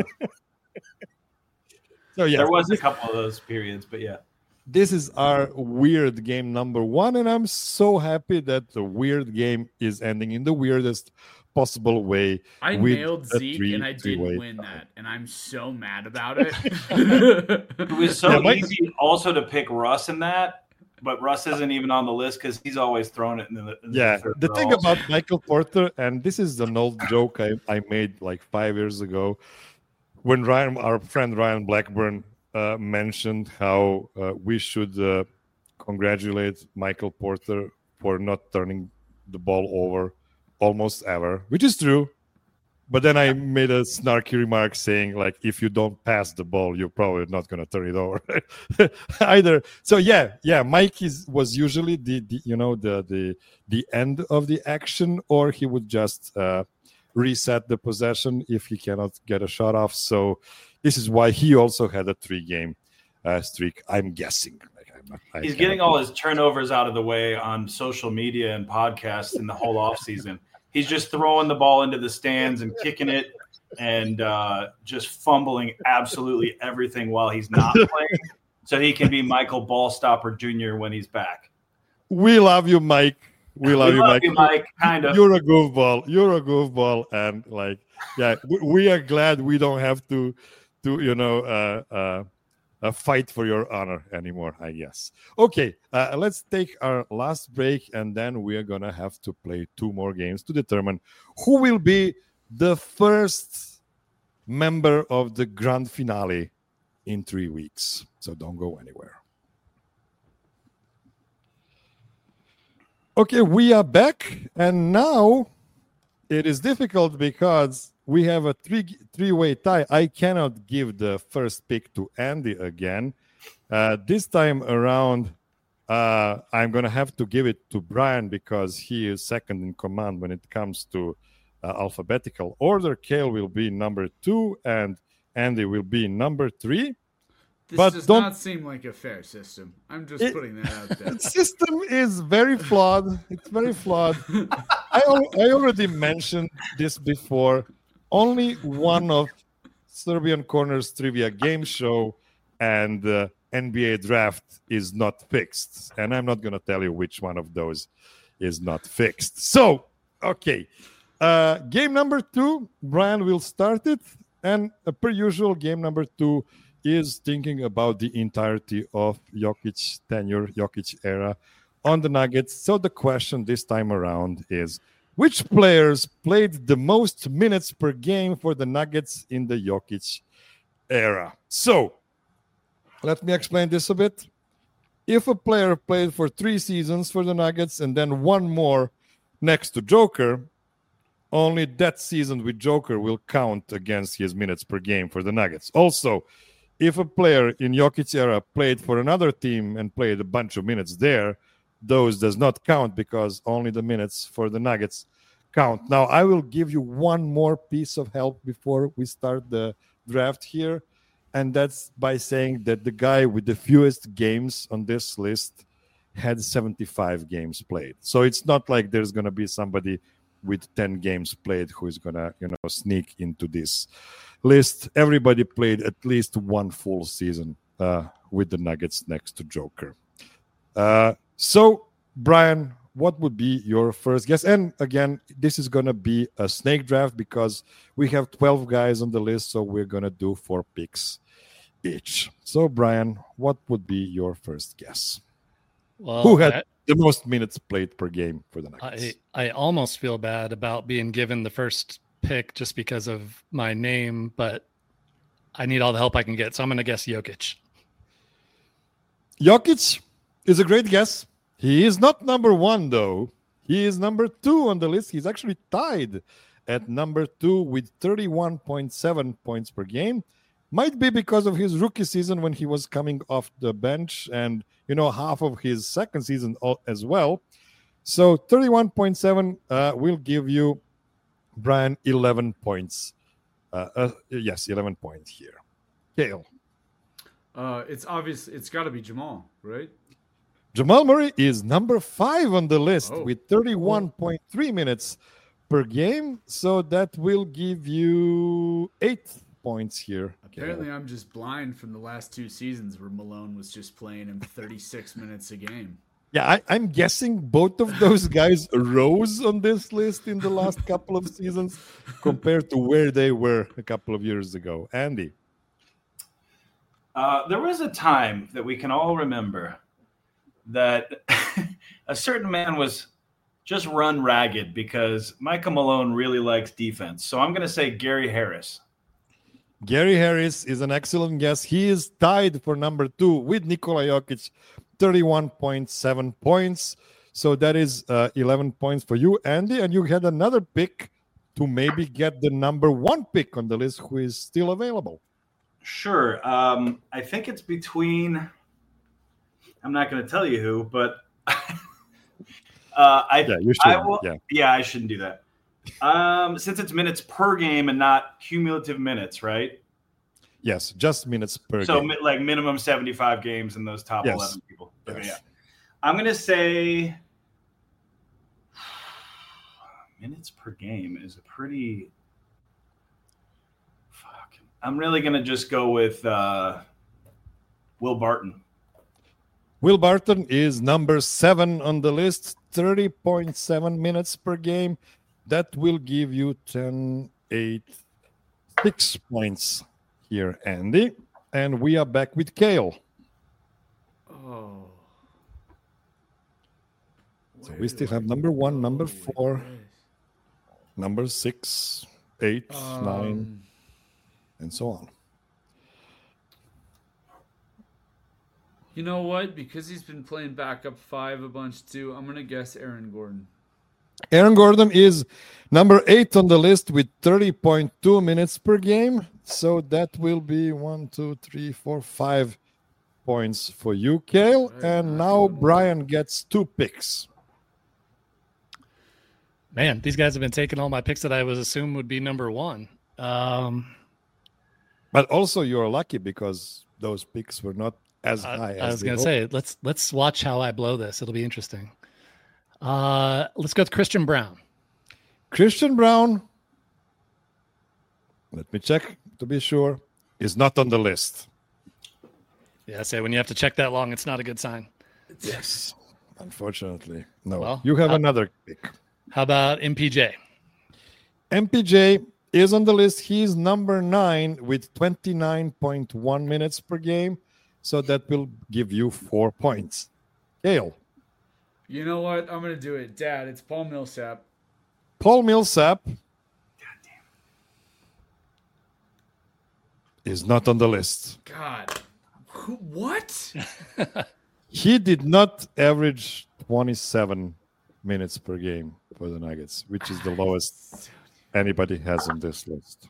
yeah,
there was a couple of those periods, but yeah.
This is our weird game number 1, and I'm so happy that the weird game is ending in the weirdest possible way.
I nailed Zeke, and I didn't win that, and I'm so mad about it.
It was so easy also to pick Russ in that, but Russ isn't even on the list because he's always thrown it in
the thing about Michael Porter, and this is an old joke I made like 5 years ago, when our friend Ryan Blackburn mentioned how we should congratulate Michael Porter for not turning the ball over almost ever, which is true. But then I made a snarky remark saying, like, if you don't pass the ball, you're probably not going to turn it over either. So yeah, Mike was usually the end of the action, or he would just reset the possession if he cannot get a shot off. So this is why he also had a 3-game streak, I'm guessing.
He's getting all his turnovers out of the way on social media and podcasts in the whole offseason. He's just throwing the ball into the stands and kicking it and just fumbling absolutely everything while he's not playing, so he can be Michael Ballstopper Jr. when he's back.
We love you, Mike. We love you, Mike.
Kind of.
You're a goofball. And we are glad we don't have to fight for your honor anymore, I guess. Okay, let's take our last break, and then we are going to have to play 2 more games to determine who will be the first member of the grand finale in 3 weeks. So don't go anywhere. Okay, we are back, and now it is difficult because we have a three-way tie. I cannot give the first pick to Andy again. This time around, I'm going to have to give it to Brian because he is second in command when it comes to alphabetical order. Kale will be number 2, and Andy will be number 3.
This does not seem like a fair system. I'm just putting that out there.
The system is very flawed. It's very flawed. I already mentioned this before. Only one of Serbian Corner's trivia game show and NBA draft is not fixed. And I'm not going to tell you which one of those is not fixed. So, okay. Game number 2, Brian will start it. And per usual, game number 2 is thinking about the entirety of Jokic tenure, Jokic era on the Nuggets. So the question this time around is, which players played the most minutes per game for the Nuggets in the Jokic era? So let me explain this a bit. If a player played for 3 seasons for the Nuggets and then 1 more next to Joker, only that season with Joker will count against his minutes per game for the Nuggets. Also, if a player in Jokic era played for another team and played a bunch of minutes there, those does not count because only the minutes for the Nuggets count. Now, I will give you one more piece of help before we start the draft here, and that's by saying that the guy with the fewest games on this list had 75 games played. So it's not like there's going to be somebody with 10 games played who is going to, sneak into this list. Everybody played at least 1 full season with the Nuggets next to Joker. So, Brian, what would be your first guess? And again, this is going to be a snake draft because we have 12 guys on the list, so we're going to do 4 picks each. So, Brian, what would be your first guess?
Well,
who had the most minutes played per game for the Nuggets?
I almost feel bad about being given the first pick just because of my name, but I need all the help I can get, so I'm going to guess Jokic.
Jokic is a great guess. He is not number 1, though. He is number 2 on the list. He's actually tied at number 2 with 31.7 points per game. Might be because of his rookie season when he was coming off the bench and, half of his second season as well. So 31.7 will give you, Brian, 11 points. Yes, 11 points here. Kale.
It's obvious. It's got to be Jamal, right?
Jamal Murray is number 5 on the list with 31.3 minutes per game. So that will give you 8 points here.
Apparently, I'm just blind from the last 2 seasons where Malone was just playing him 36 minutes a game.
Yeah, I'm guessing both of those guys rose on this list in the last couple of seasons compared to where they were a couple of years ago. Andy?
There was a time that we can all remember that a certain man was just run ragged because Michael Malone really likes defense. So I'm going to say Gary Harris.
Gary Harris is an excellent guess. He is tied for number 2 with Nikola Jokic, 31.7 points. So that is 11 points for you, Andy. And you had another pick to maybe get the number 1 pick on the list who is still available.
Sure. I think it's between, I'm not going to tell you who, but I shouldn't do that. Since it's minutes per game and not cumulative minutes, right?
Yes, just minutes per game.
So like minimum 75 games in those top 11 people.
Yes.
Okay, yeah. I'm going to say minutes per game is a pretty I'm really going to just go with Will Barton.
Will Barton is number 7 on the list, 30.7 minutes per game. That will give you 6 points here, Andy. And we are back with Kale.
Oh.
So we still have number 1, number 4, number 6, 8, 9, and so on.
You know what? Because he's been playing backup 5 a bunch too, I'm going to guess Aaron Gordon.
Aaron Gordon is number 8 on the list with 30.2 minutes per game. So that will be 5 points for you, Kale. And now Brian gets 2 picks.
Man, these guys have been taking all my picks that I was assumed would be number 1.
But also you're lucky because those picks were not as high as
I was going to say, let's watch how I blow this. It'll be interesting. Let's go with Christian Brown.
Christian Brown, let me check to be sure, is not on the list.
Yeah, I say when you have to check that long, it's not a good sign.
Yes, unfortunately. No,
Well,
you have another pick.
How about MPJ?
MPJ is on the list. He's number 9 with 29.1 minutes per game. So that will give you 4 points. Kale.
You know what? I'm going to do it. Dad, it's Paul Millsap.
Paul Millsap is not on the list.
God. What?
He did not average 27 minutes per game for the Nuggets, which is the lowest anybody has on this list.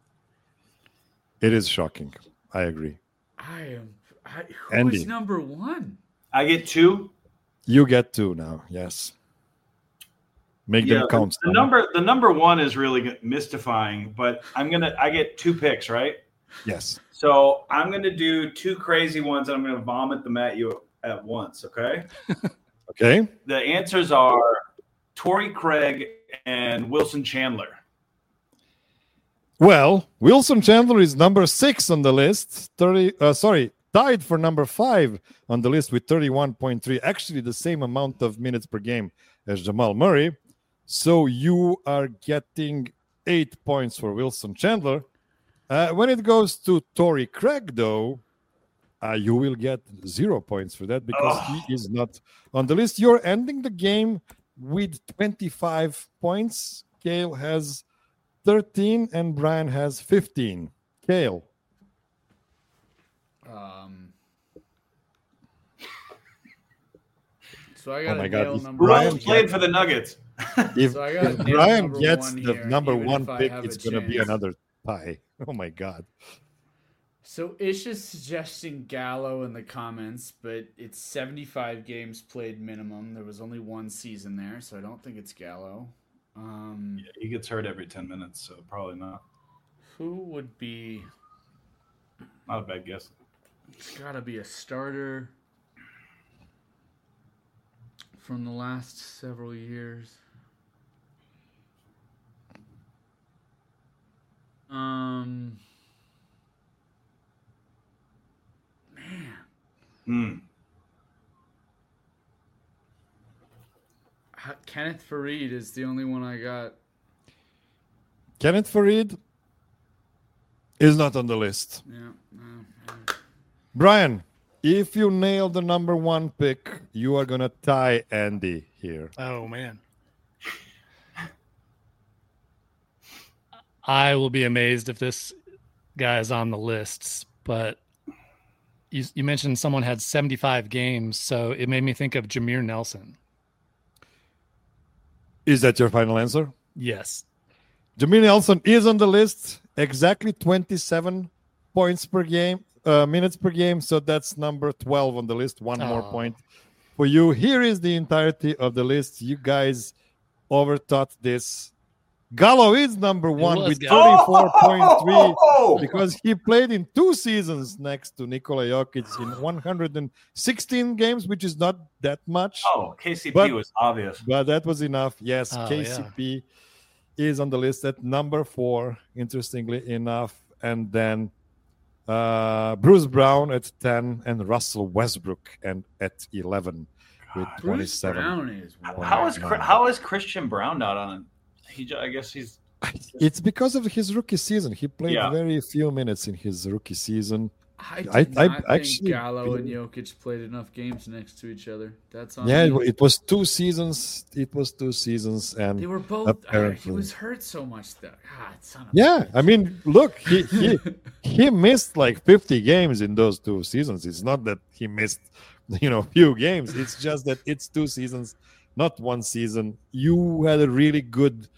It is shocking. I agree.
Who
Andy.
is number 1?
I get 2.
You get 2 now. Yes. Make them count.
The number 1 is really mystifying, but I get 2 picks, right?
Yes.
So I'm gonna do 2 crazy ones, and I'm gonna vomit them at you at once. Okay.
Okay.
The answers are Torrey Craig and Wilson Chandler.
Well, Wilson Chandler is number 6 on the list. Tied for number 5 on the list with 31.3. Actually, the same amount of minutes per game as Jamal Murray. So you are getting 8 points for Wilson Chandler. When it goes to Torrey Craig, though, you will get 0 points for that because he is not on the list. You're ending the game with 25 points. Kale has 13 and Brian has 15. Kale.
So I got
my
to
God.
nail number
Brian
1.
Played for the Nuggets.
If,
So I gotta
if
nail
Brian
number
gets
1
the
here,
number
even
1
if I
pick,
have
it's
a
going to be
chance.
another tie. Oh, my God.
So Ish is suggesting Gallo in the comments, but it's 75 games played minimum. There was only 1 season there, so I don't think it's Gallo.
Yeah, he gets hurt every 10 minutes, so probably not.
Who would be...
Not a bad guess.
It's got to be a starter from the last several years. Man. Kenneth Faried is the only one I got.
Kenneth Faried is not on the list.
Yeah.
Brian, if you nail the number 1 pick, you are going to tie Andy here.
Oh, man. I will be amazed if this guy is on the lists, but you mentioned someone had 75 games, so it made me think of Jameer Nelson.
Is that your final answer?
Yes.
Jameer Nelson is on the list, exactly 27 points per game, minutes per game. So that's number 12 on the list. One more point for you. Here is the entirety of the list. You guys overthought this. Gallo is number 1 with 34.3 because he played in 2 seasons next to Nikola Jokic in 116 games, which is not that much.
KCP was obvious.
But that was enough. Yes, KCP is on the list at number 4, interestingly enough. And then Bruce Brown at 10 and Russell Westbrook and at 11 with 27.
How is Christian Brown not on it? I guess he's.
It's because of his rookie season. He played very few minutes in his rookie season.
I did not think
actually
Gallo and Jokic played enough games next to each other. That's on
Yeah,
me.
it was 2 seasons. It was 2 seasons, and
They were both.
apparently,
He was hurt so much though. God, son of a
yeah.
bitch.
I mean, look, he missed like 50 games in those 2 seasons. It's not that he missed, few games. It's just that it's 2 seasons, not 1 season. You had a really good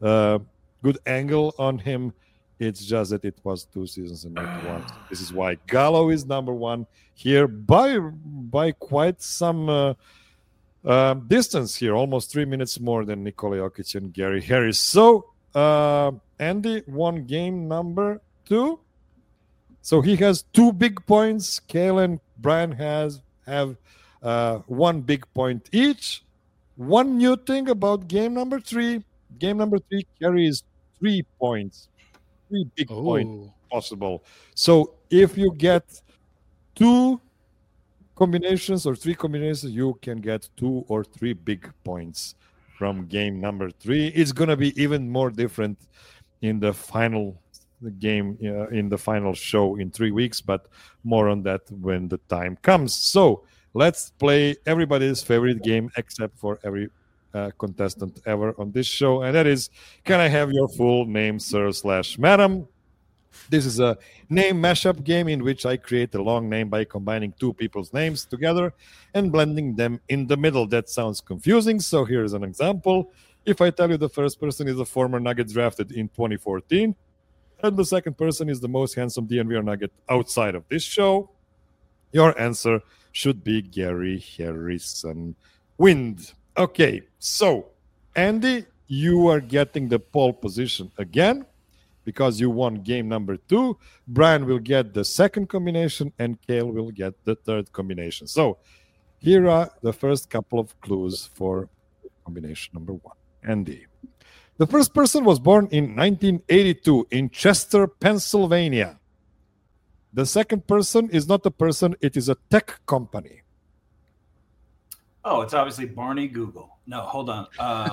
angle on him. It's just that it was 2 seasons and not 1. This is why Gallo is number 1 here by quite some distance here, almost 3 minutes more than Nikola Jokic and Gary Harris. So Andy won game number 2. So he has 2 big points. Cale and Brian have 1 big point each. One new thing about game number 3. Game number 3 carries 3 points. 3 big points possible. So if you get 2 combinations or 3 combinations, you can get 2 or 3 big points from game number 3. It's going to be even more different in the final game, in the final show in 3 weeks, but more on that when the time comes. So let's play everybody's favorite game except for every contestant ever on this show, and that is, can I have your full name, sir/madam? This is a name mashup game in which I create a long name by combining 2 people's names together and blending them in the middle. That sounds confusing, so here's an example. If I tell you the first person is a former Nugget drafted in 2014, and the second person is the most handsome DNVR Nugget outside of this show, your answer should be Gary Harrison Wind. Okay, so Andy, you are getting the pole position again because you won game number 2. Brian will get the second combination and Cale will get the third combination. So here are the first couple of clues for combination number 1. Andy. The first person was born in 1982 in Chester, Pennsylvania. The second person is not a person, it is a tech company.
Oh, it's obviously Barney Google. No, hold on.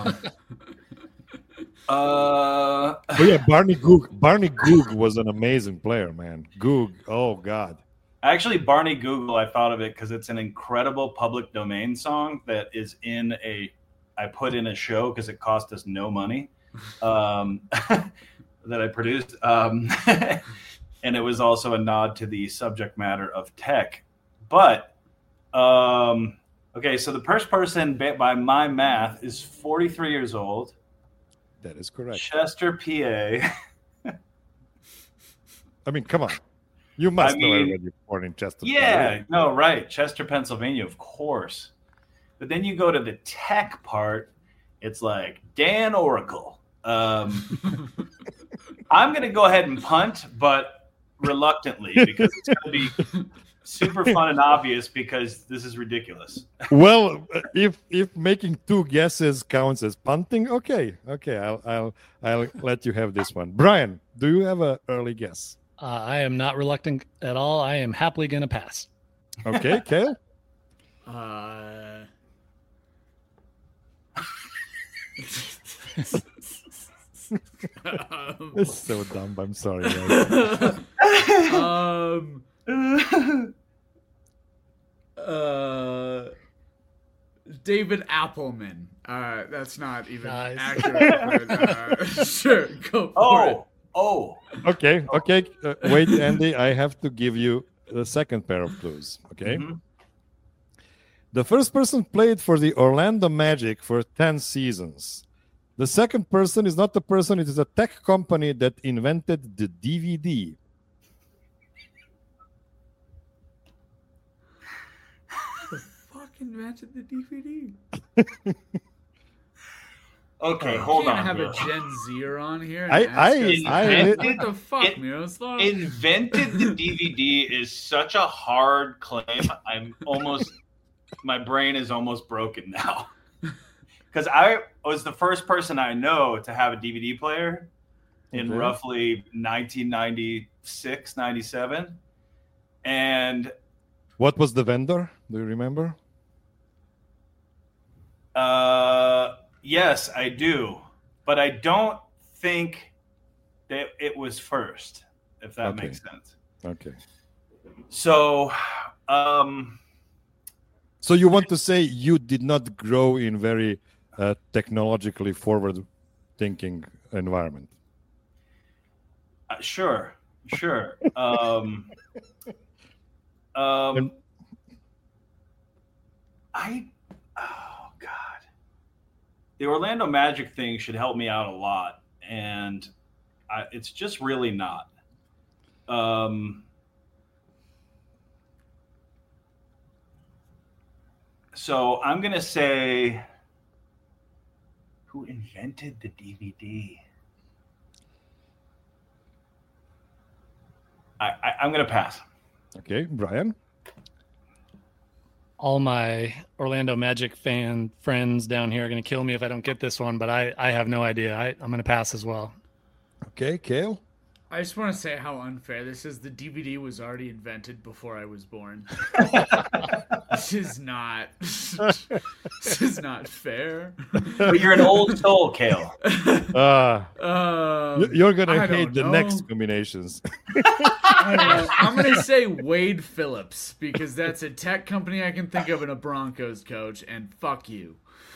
Oh yeah, Barney Goog. Barney Goog was an amazing player, man. Goog. Oh God.
Actually, Barney Google, I thought of it because it's an incredible public domain song that is I put in a show because it cost us no money that I produced. And it was also a nod to the subject matter of tech. But, okay, so the first person, by my math, is 43 years old.
That is correct.
Chester, PA.
I mean, come on. You must know everybody born in Chester.
Yeah, no, right. Chester, Pennsylvania, of course. But then you go to the tech part, it's like Dan Oracle. I'm going to go ahead and punt, but reluctantly, because it's going to be super fun and obvious because this is ridiculous.
Well, if making 2 guesses counts as punting, okay, I'll let you have this one. Brian, do you have an early guess?
I am not reluctant at all. I am happily going to pass.
Okay, Cale? It's so dumb. I'm sorry.
David Appelman. That's not even
Nice.
accurate. But, sure, go for it.
Oh.
Okay. Wait, Andy, I have to give you the second pair of clues. Okay.
Mm-hmm.
The first person played for the Orlando Magic for 10 seasons. The second person is not the person, it is a tech company that invented the DVD.
Who the fuck invented the DVD?
Okay, hold on.
I have
bro.
a Gen Zer on here. And
I
what the fuck, Miroslav?
Invented the DVD is such a hard claim. My brain is almost broken now. Because I was the first person I know to have a DVD player in roughly 1996, 97. And
what was the vendor? Do you remember?
Yes, I do. But I don't think that it was first, if that makes sense.
Okay.
So,
So you want to say you did not grow in very technologically forward-thinking environment?
Sure. Oh God, the Orlando Magic thing should help me out a lot, and it's just really not. So I'm gonna say, who invented the DVD? I'm gonna pass.
Okay, Brian.
All my Orlando Magic fan friends down here are going to kill me if I don't get this one, but I have no idea. I'm going to pass as well.
Okay, Kale.
I just want to say how unfair this is. The DVD was already invented before I was born. This is not fair.
But you're an old soul, Kale.
You're gonna hate the next combinations.
I'm gonna say Wade Phillips because that's a tech company I can think of and a Broncos coach, and fuck you.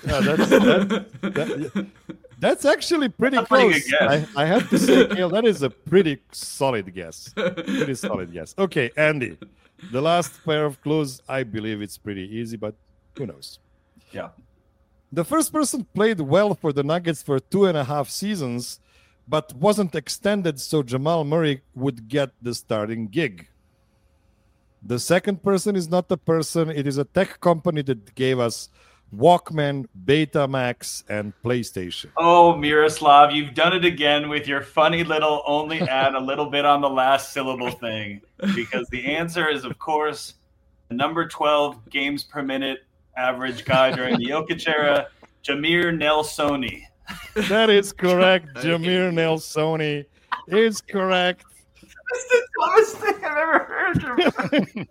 That's actually pretty close. I have to say, Kale, that is a pretty solid guess. Okay, Andy, the last pair of clues, I believe it's pretty easy, but who knows?
Yeah.
The first person played well for the Nuggets for 2.5 seasons, but wasn't extended so Jamal Murray would get the starting gig. The second person is not a person. It is a tech company that gave us Walkman, Betamax, and PlayStation.
Oh, Miroslav, you've done it again with your funny little only add a little bit on the last syllable thing. Because the answer is, of course, the number 12 games per minute average guy during the Jokic era, Jameer Nelsoni.
That is correct. Jameer Nelsoni is correct.
That's the dumbest thing I've ever heard.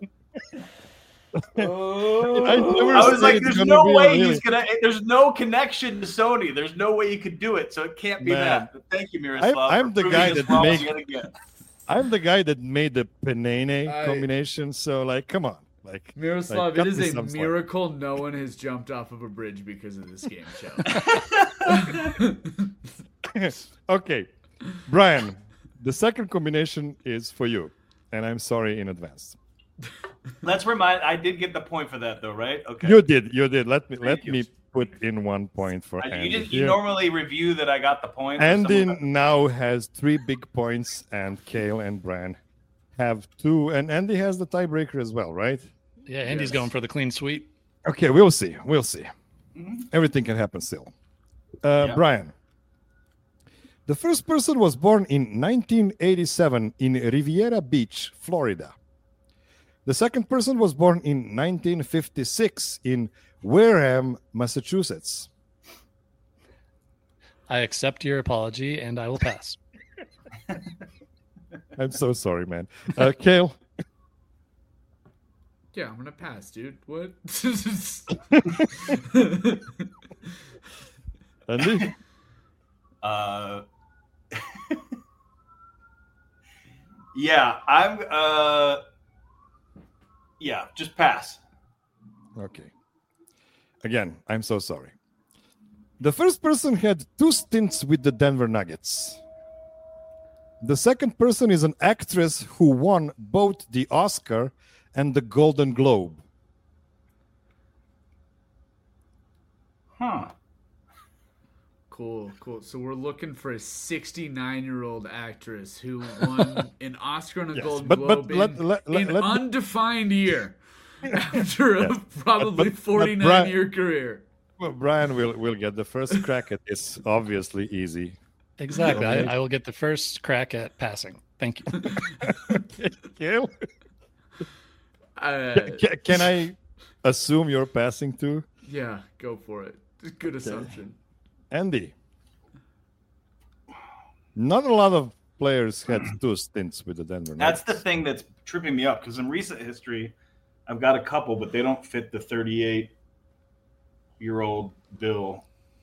I was like, there's no way he's gonna. There's no connection to Sony. There's no way you could do it, so it can't be that. But thank you, Miroslav.
I'm the guy that made the Penene combination. So, like, come on, like
Miroslav. It is a miracle no one has jumped off of a bridge because of this game show.
Okay, Brian, the second combination is for you, and I'm sorry in advance.
Let's remind. I did get the point for that, though, right? Okay.
You did. Let me put in 1 point for Andy.
You normally review that I got the point.
Andy now has 3 big points, and Kale and Brian have 2, and Andy has the tiebreaker as well, right?
Yeah, Andy's going for the clean sweep.
Okay, we'll see. Mm-hmm. Everything can happen still. Brian, the first person was born in 1987 in Riviera Beach, Florida. The second person was born in 1956 in Wareham, Massachusetts.
I accept your apology, and I will pass.
I'm so sorry, man. Kale?
Yeah, I'm going to pass, dude. What?
Andy?
Yeah, I'm... Yeah, just pass.
Okay. Again, I'm so sorry. The first person had 2 stints with the Denver Nuggets. The second person is an actress who won both the Oscar and the Golden Globe.
Huh.
Cool. So we're looking for a 69-year-old actress who won an Oscar and a Golden Globe in undefined year after a probably 49-year career.
Well, Brian will get the first crack at this. Obviously easy.
Exactly. I will get the first crack at passing. Thank you.
Can I assume you're passing too?
Yeah, go for it. Good assumption.
Andy, not a lot of players had 2 stints with the Denver Nuggets.
That's the thing that's tripping me up, because in recent history, I've got a couple, but they don't fit the 38-year-old bill.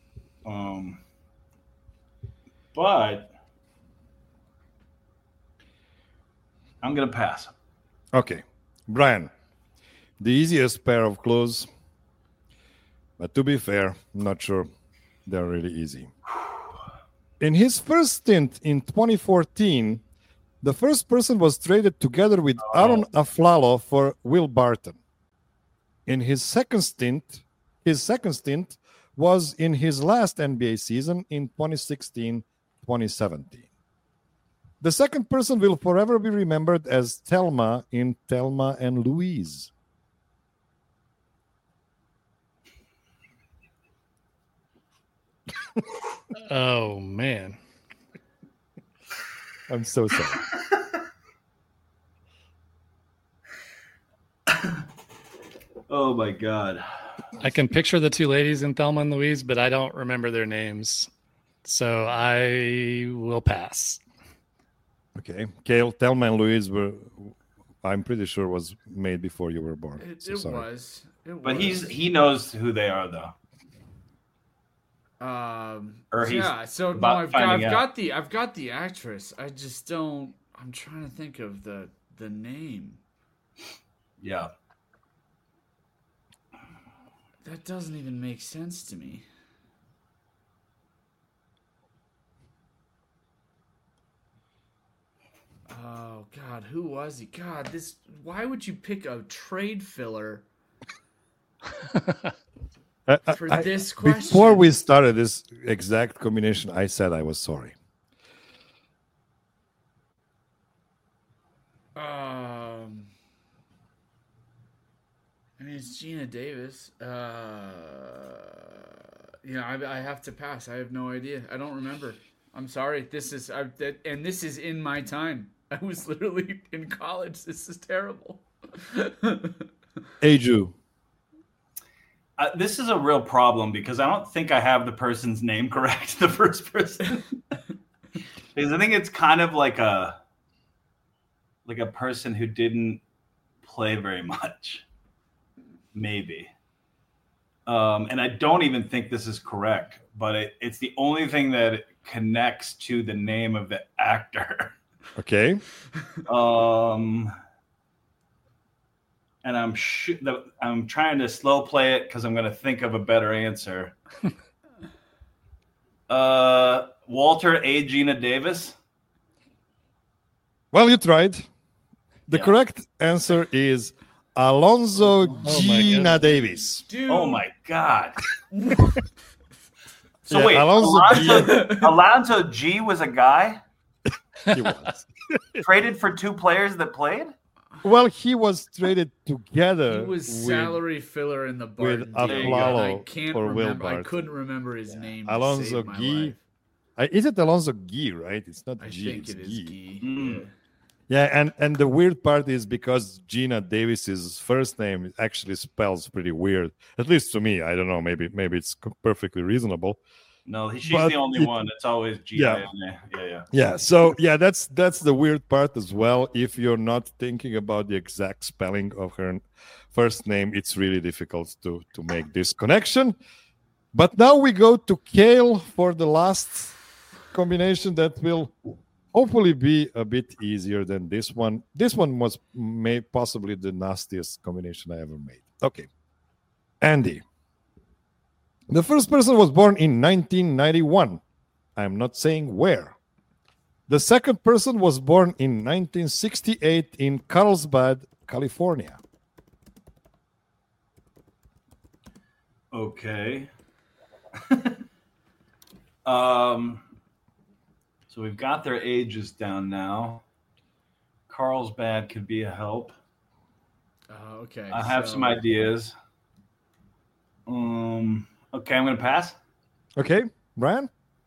But I'm going to pass.
Okay. Brian, the easiest pair of clues, but to be fair, I'm not sure they're really easy. In his first stint in 2014, the first person was traded together with Aaron Aflalo for Will Barton. In his second stint was in his last NBA season in 2016-2017. The second person will forever be remembered as Thelma in Thelma and Louise.
Oh, man.
I'm so sorry.
Oh, my God.
I can picture the two ladies in Thelma and Louise, but I don't remember their names. So I will pass.
Okay. Kale, Thelma and Louise were, I'm pretty sure, was made before you were born.
It
sorry.
was.
But he knows who they are, though. Or he's
yeah. So no,
about
I've
finding
got the actress. I just don't. I'm trying to think of the name.
Yeah.
That doesn't even make sense to me. Oh God, who was he? God, this. Why would you pick a trade filler for this question?
Before we started this exact combination, I said I was sorry.
I mean, it's Gina Davis. I have to pass. I have no idea. I don't remember. I'm sorry. This is in my time. I was literally in college. This is terrible.
Aju.
This is a real problem because I don't think I have the person's name correct, the first person. Because I think it's kind of like a person who didn't play very much. Maybe. And I don't even think this is correct, but it's the only thing that connects to the name of the actor.
Okay.
And I'm trying to slow play it because I'm going to think of a better answer. Walter A. Gina Davis.
Well, you tried. The correct answer is Alonzo Gina Davis.
Dude.
Oh my God. So
Yeah,
wait, Alonzo G was a guy
He was.
traded for two players that played?
Well, he was traded together.
He was salary filler in the
with
Barton deal.
Aflalo
I can't
for Will
remember. I
Barton.
couldn't remember his name. to
Alonzo
save my
Guy.
life.
Is it Alonzo Guy, right? It's not
I
G.
think
It's
it is
Guy.
Guy.
Mm.
Yeah, and the weird part is because Gina Davis's first name actually spells pretty weird. At least to me, I don't know. Maybe it's perfectly reasonable.
No, she's
But
the only one. It's always G-I-N-A. Yeah.
Yeah. So yeah, that's the weird part as well. If you're not thinking about the exact spelling of her first name, it's really difficult to make this connection. But now we go to Kale for the last combination that will hopefully be a bit easier than this one. This one was possibly the nastiest combination I ever made. Okay. Andy. The first person was born in 1991. I'm not saying where. The second person was born in 1968 in Carlsbad, California.
Okay. So we've got their ages down now. Carlsbad could be a help.
Okay.
I have some ideas. Okay, I'm going to pass.
Okay, Brian?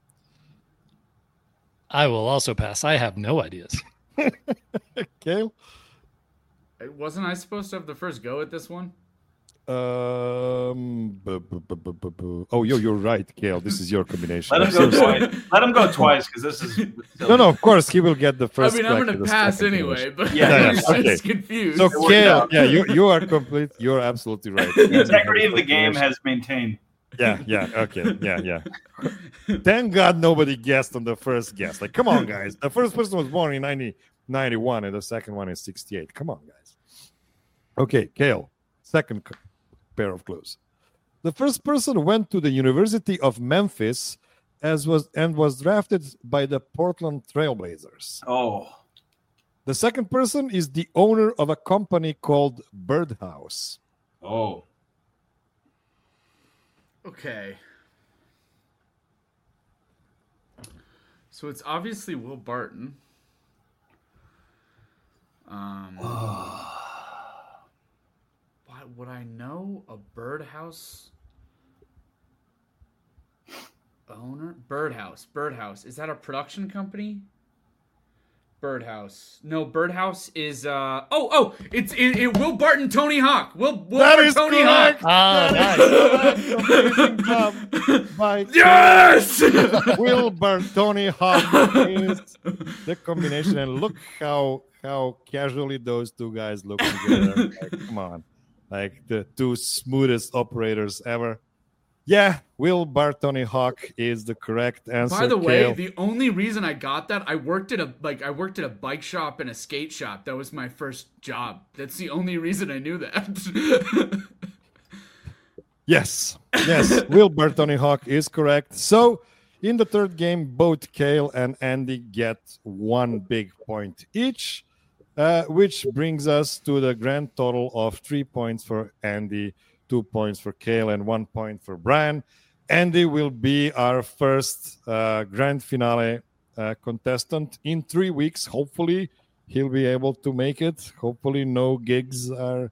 I will also pass. I have no ideas.
Kale?
Wasn't I supposed to have the first go at this one?
Oh, you're right, Kale. This is your combination.
Let him go twice. Let him go twice because this is
No, of course he will get the first.
I mean, I'm
going
to pass anyway, but
Yeah,
I'm
okay.
just confused.
So
worked
Kale,
out.
yeah, you are complete. You're absolutely right.
the integrity of the game has maintained.
Yeah, okay, yeah. Thank God nobody guessed on the first guess. Like, come on, guys. The first person was born in 1991, and the second one is 68. Come on, guys. Okay, Kale, second pair of clues. The first person went to the University of Memphis was drafted by the Portland Trailblazers.
Oh.
The second person is the owner of a company called Birdhouse.
Oh.
Okay. So it's obviously Will Barton. Why would I know a Birdhouse owner? Birdhouse. Is that a production company? Birdhouse. No, Birdhouse is it's Will Barton, Tony Hawk. Will
That
Barton,
is
Tony
correct.
Hawk.
Nice.
Amazing job by
Yes.
Wilbur Tony Hawk is the combination, and look how casually those two guys look together. Like, come on, like the two smoothest operators ever. Yeah, Wilbur Tony Hawk is the correct answer.
By the way,
Kale.
the only reason I got that, I worked at a bike shop and a skate shop. That was my first job. That's the only reason I knew that.
Yes, Wilbur Tony Hawk is correct. So, in the third game, both Kale and Andy get 1 big point each, which brings us to the grand total of 3 points for Andy, 2 points for Kale, and 1 point for Brian. Andy will be our first grand finale contestant in 3 weeks. Hopefully, he'll be able to make it. Hopefully, no gigs are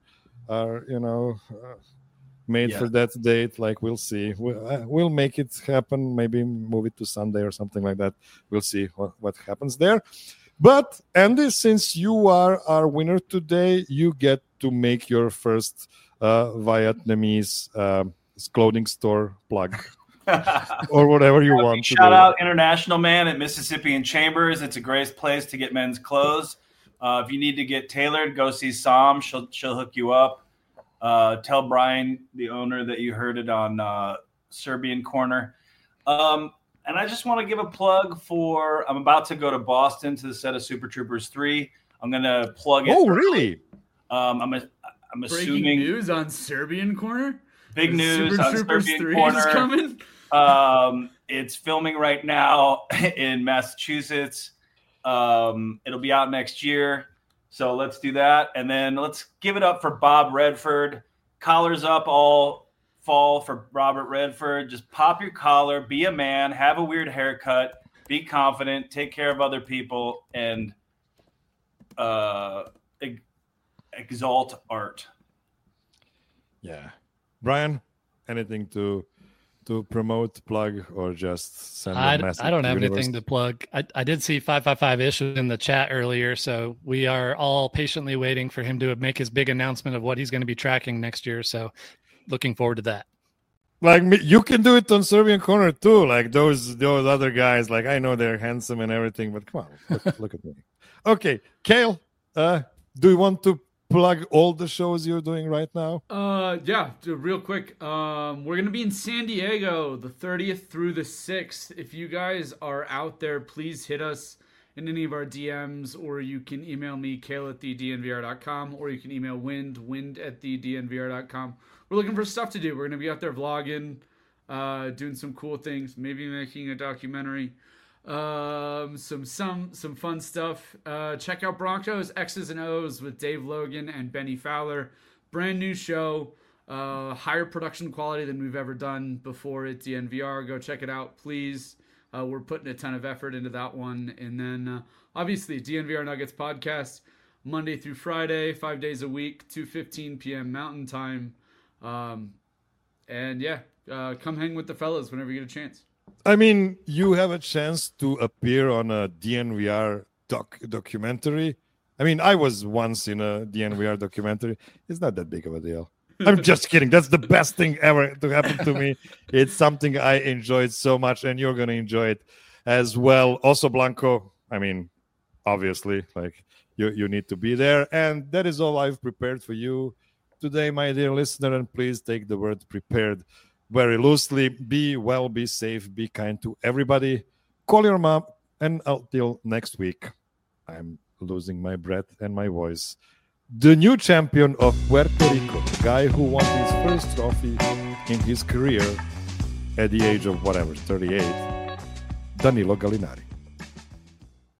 made for that date. Like, we'll see. We'll make it happen. Maybe move it to Sunday or something like that. We'll see what happens there. But Andy, since you are our winner today, you get to make your first Vietnamese clothing store plug. Or whatever you want to
Shout
do.
out International Man at Mississippian Chambers. It's a great place to get men's clothes. If you need to get tailored, go see Sam. She'll hook you up. Tell Brian, the owner, that you heard it on Serbian Corner. And I just want to give a plug for, I'm about to go to Boston to the set of Super Troopers 3. I'm going to plug it.
Oh, really?
I'm
Breaking
assuming
news on Serbian Corner.
big news
Super
on
Troopers
Serbian
3
Corner.
is coming.
It's filming right now in Massachusetts. It'll be out next year. So let's do that. And then let's give it up for Bob Redford. Collars up all fall for Robert Redford. Just pop your collar, be a man, have a weird haircut, be confident, take care of other people, and exalt art.
Yeah. Brian, anything to promote, plug, or just send a message?
I don't
to
have
universe?
anything to plug. I did see 555-ish in the chat earlier, so we are all patiently waiting for him to make his big announcement of what he's going to be tracking next year. So looking forward to that.
Like me, you can do it on Serbian Corner too. Like those other guys. Like, I know they're handsome and everything, but come on, look at me. Okay, Kale, do you want to plug all the shows you're doing right now?
Yeah, real quick. We're gonna be in San Diego the 30th through the 6th. If you guys are out there, please hit us in any of our DMs, or you can email me, kale@thednvr.com, or you can email wind@thednvr.com. We're looking for stuff to do. We're gonna be out there vlogging, doing some cool things, maybe making a documentary. Some fun stuff. Check out Broncos X's and O's with Dave Logan and Benny Fowler. Brand new show, higher production quality than we've ever done before at DNVR. Go check it out, please. We're putting a ton of effort into that one. And then obviously DNVR Nuggets podcast, Monday through Friday, 5 days a week, 2:15 p.m. Mountain Time. And yeah, come hang with the fellas whenever you get a chance.
I mean, you have a chance to appear on a DNVR documentary. I mean, I was once in a DNVR documentary. It's not that big of a deal. I'm just kidding. That's the best thing ever to happen to me. It's something I enjoyed so much, and you're going to enjoy it as well. Also, Blanco, I mean, obviously, like, you need to be there. And that is all I've prepared for you today, my dear listener. And please take the word prepared very loosely. Be well, be safe, be kind to everybody. Call your mom. And until next week, I'm losing my breath and my voice. the new champion of Puerto Rico, the guy who won his first trophy in his career at the age of 38, Danilo Gallinari.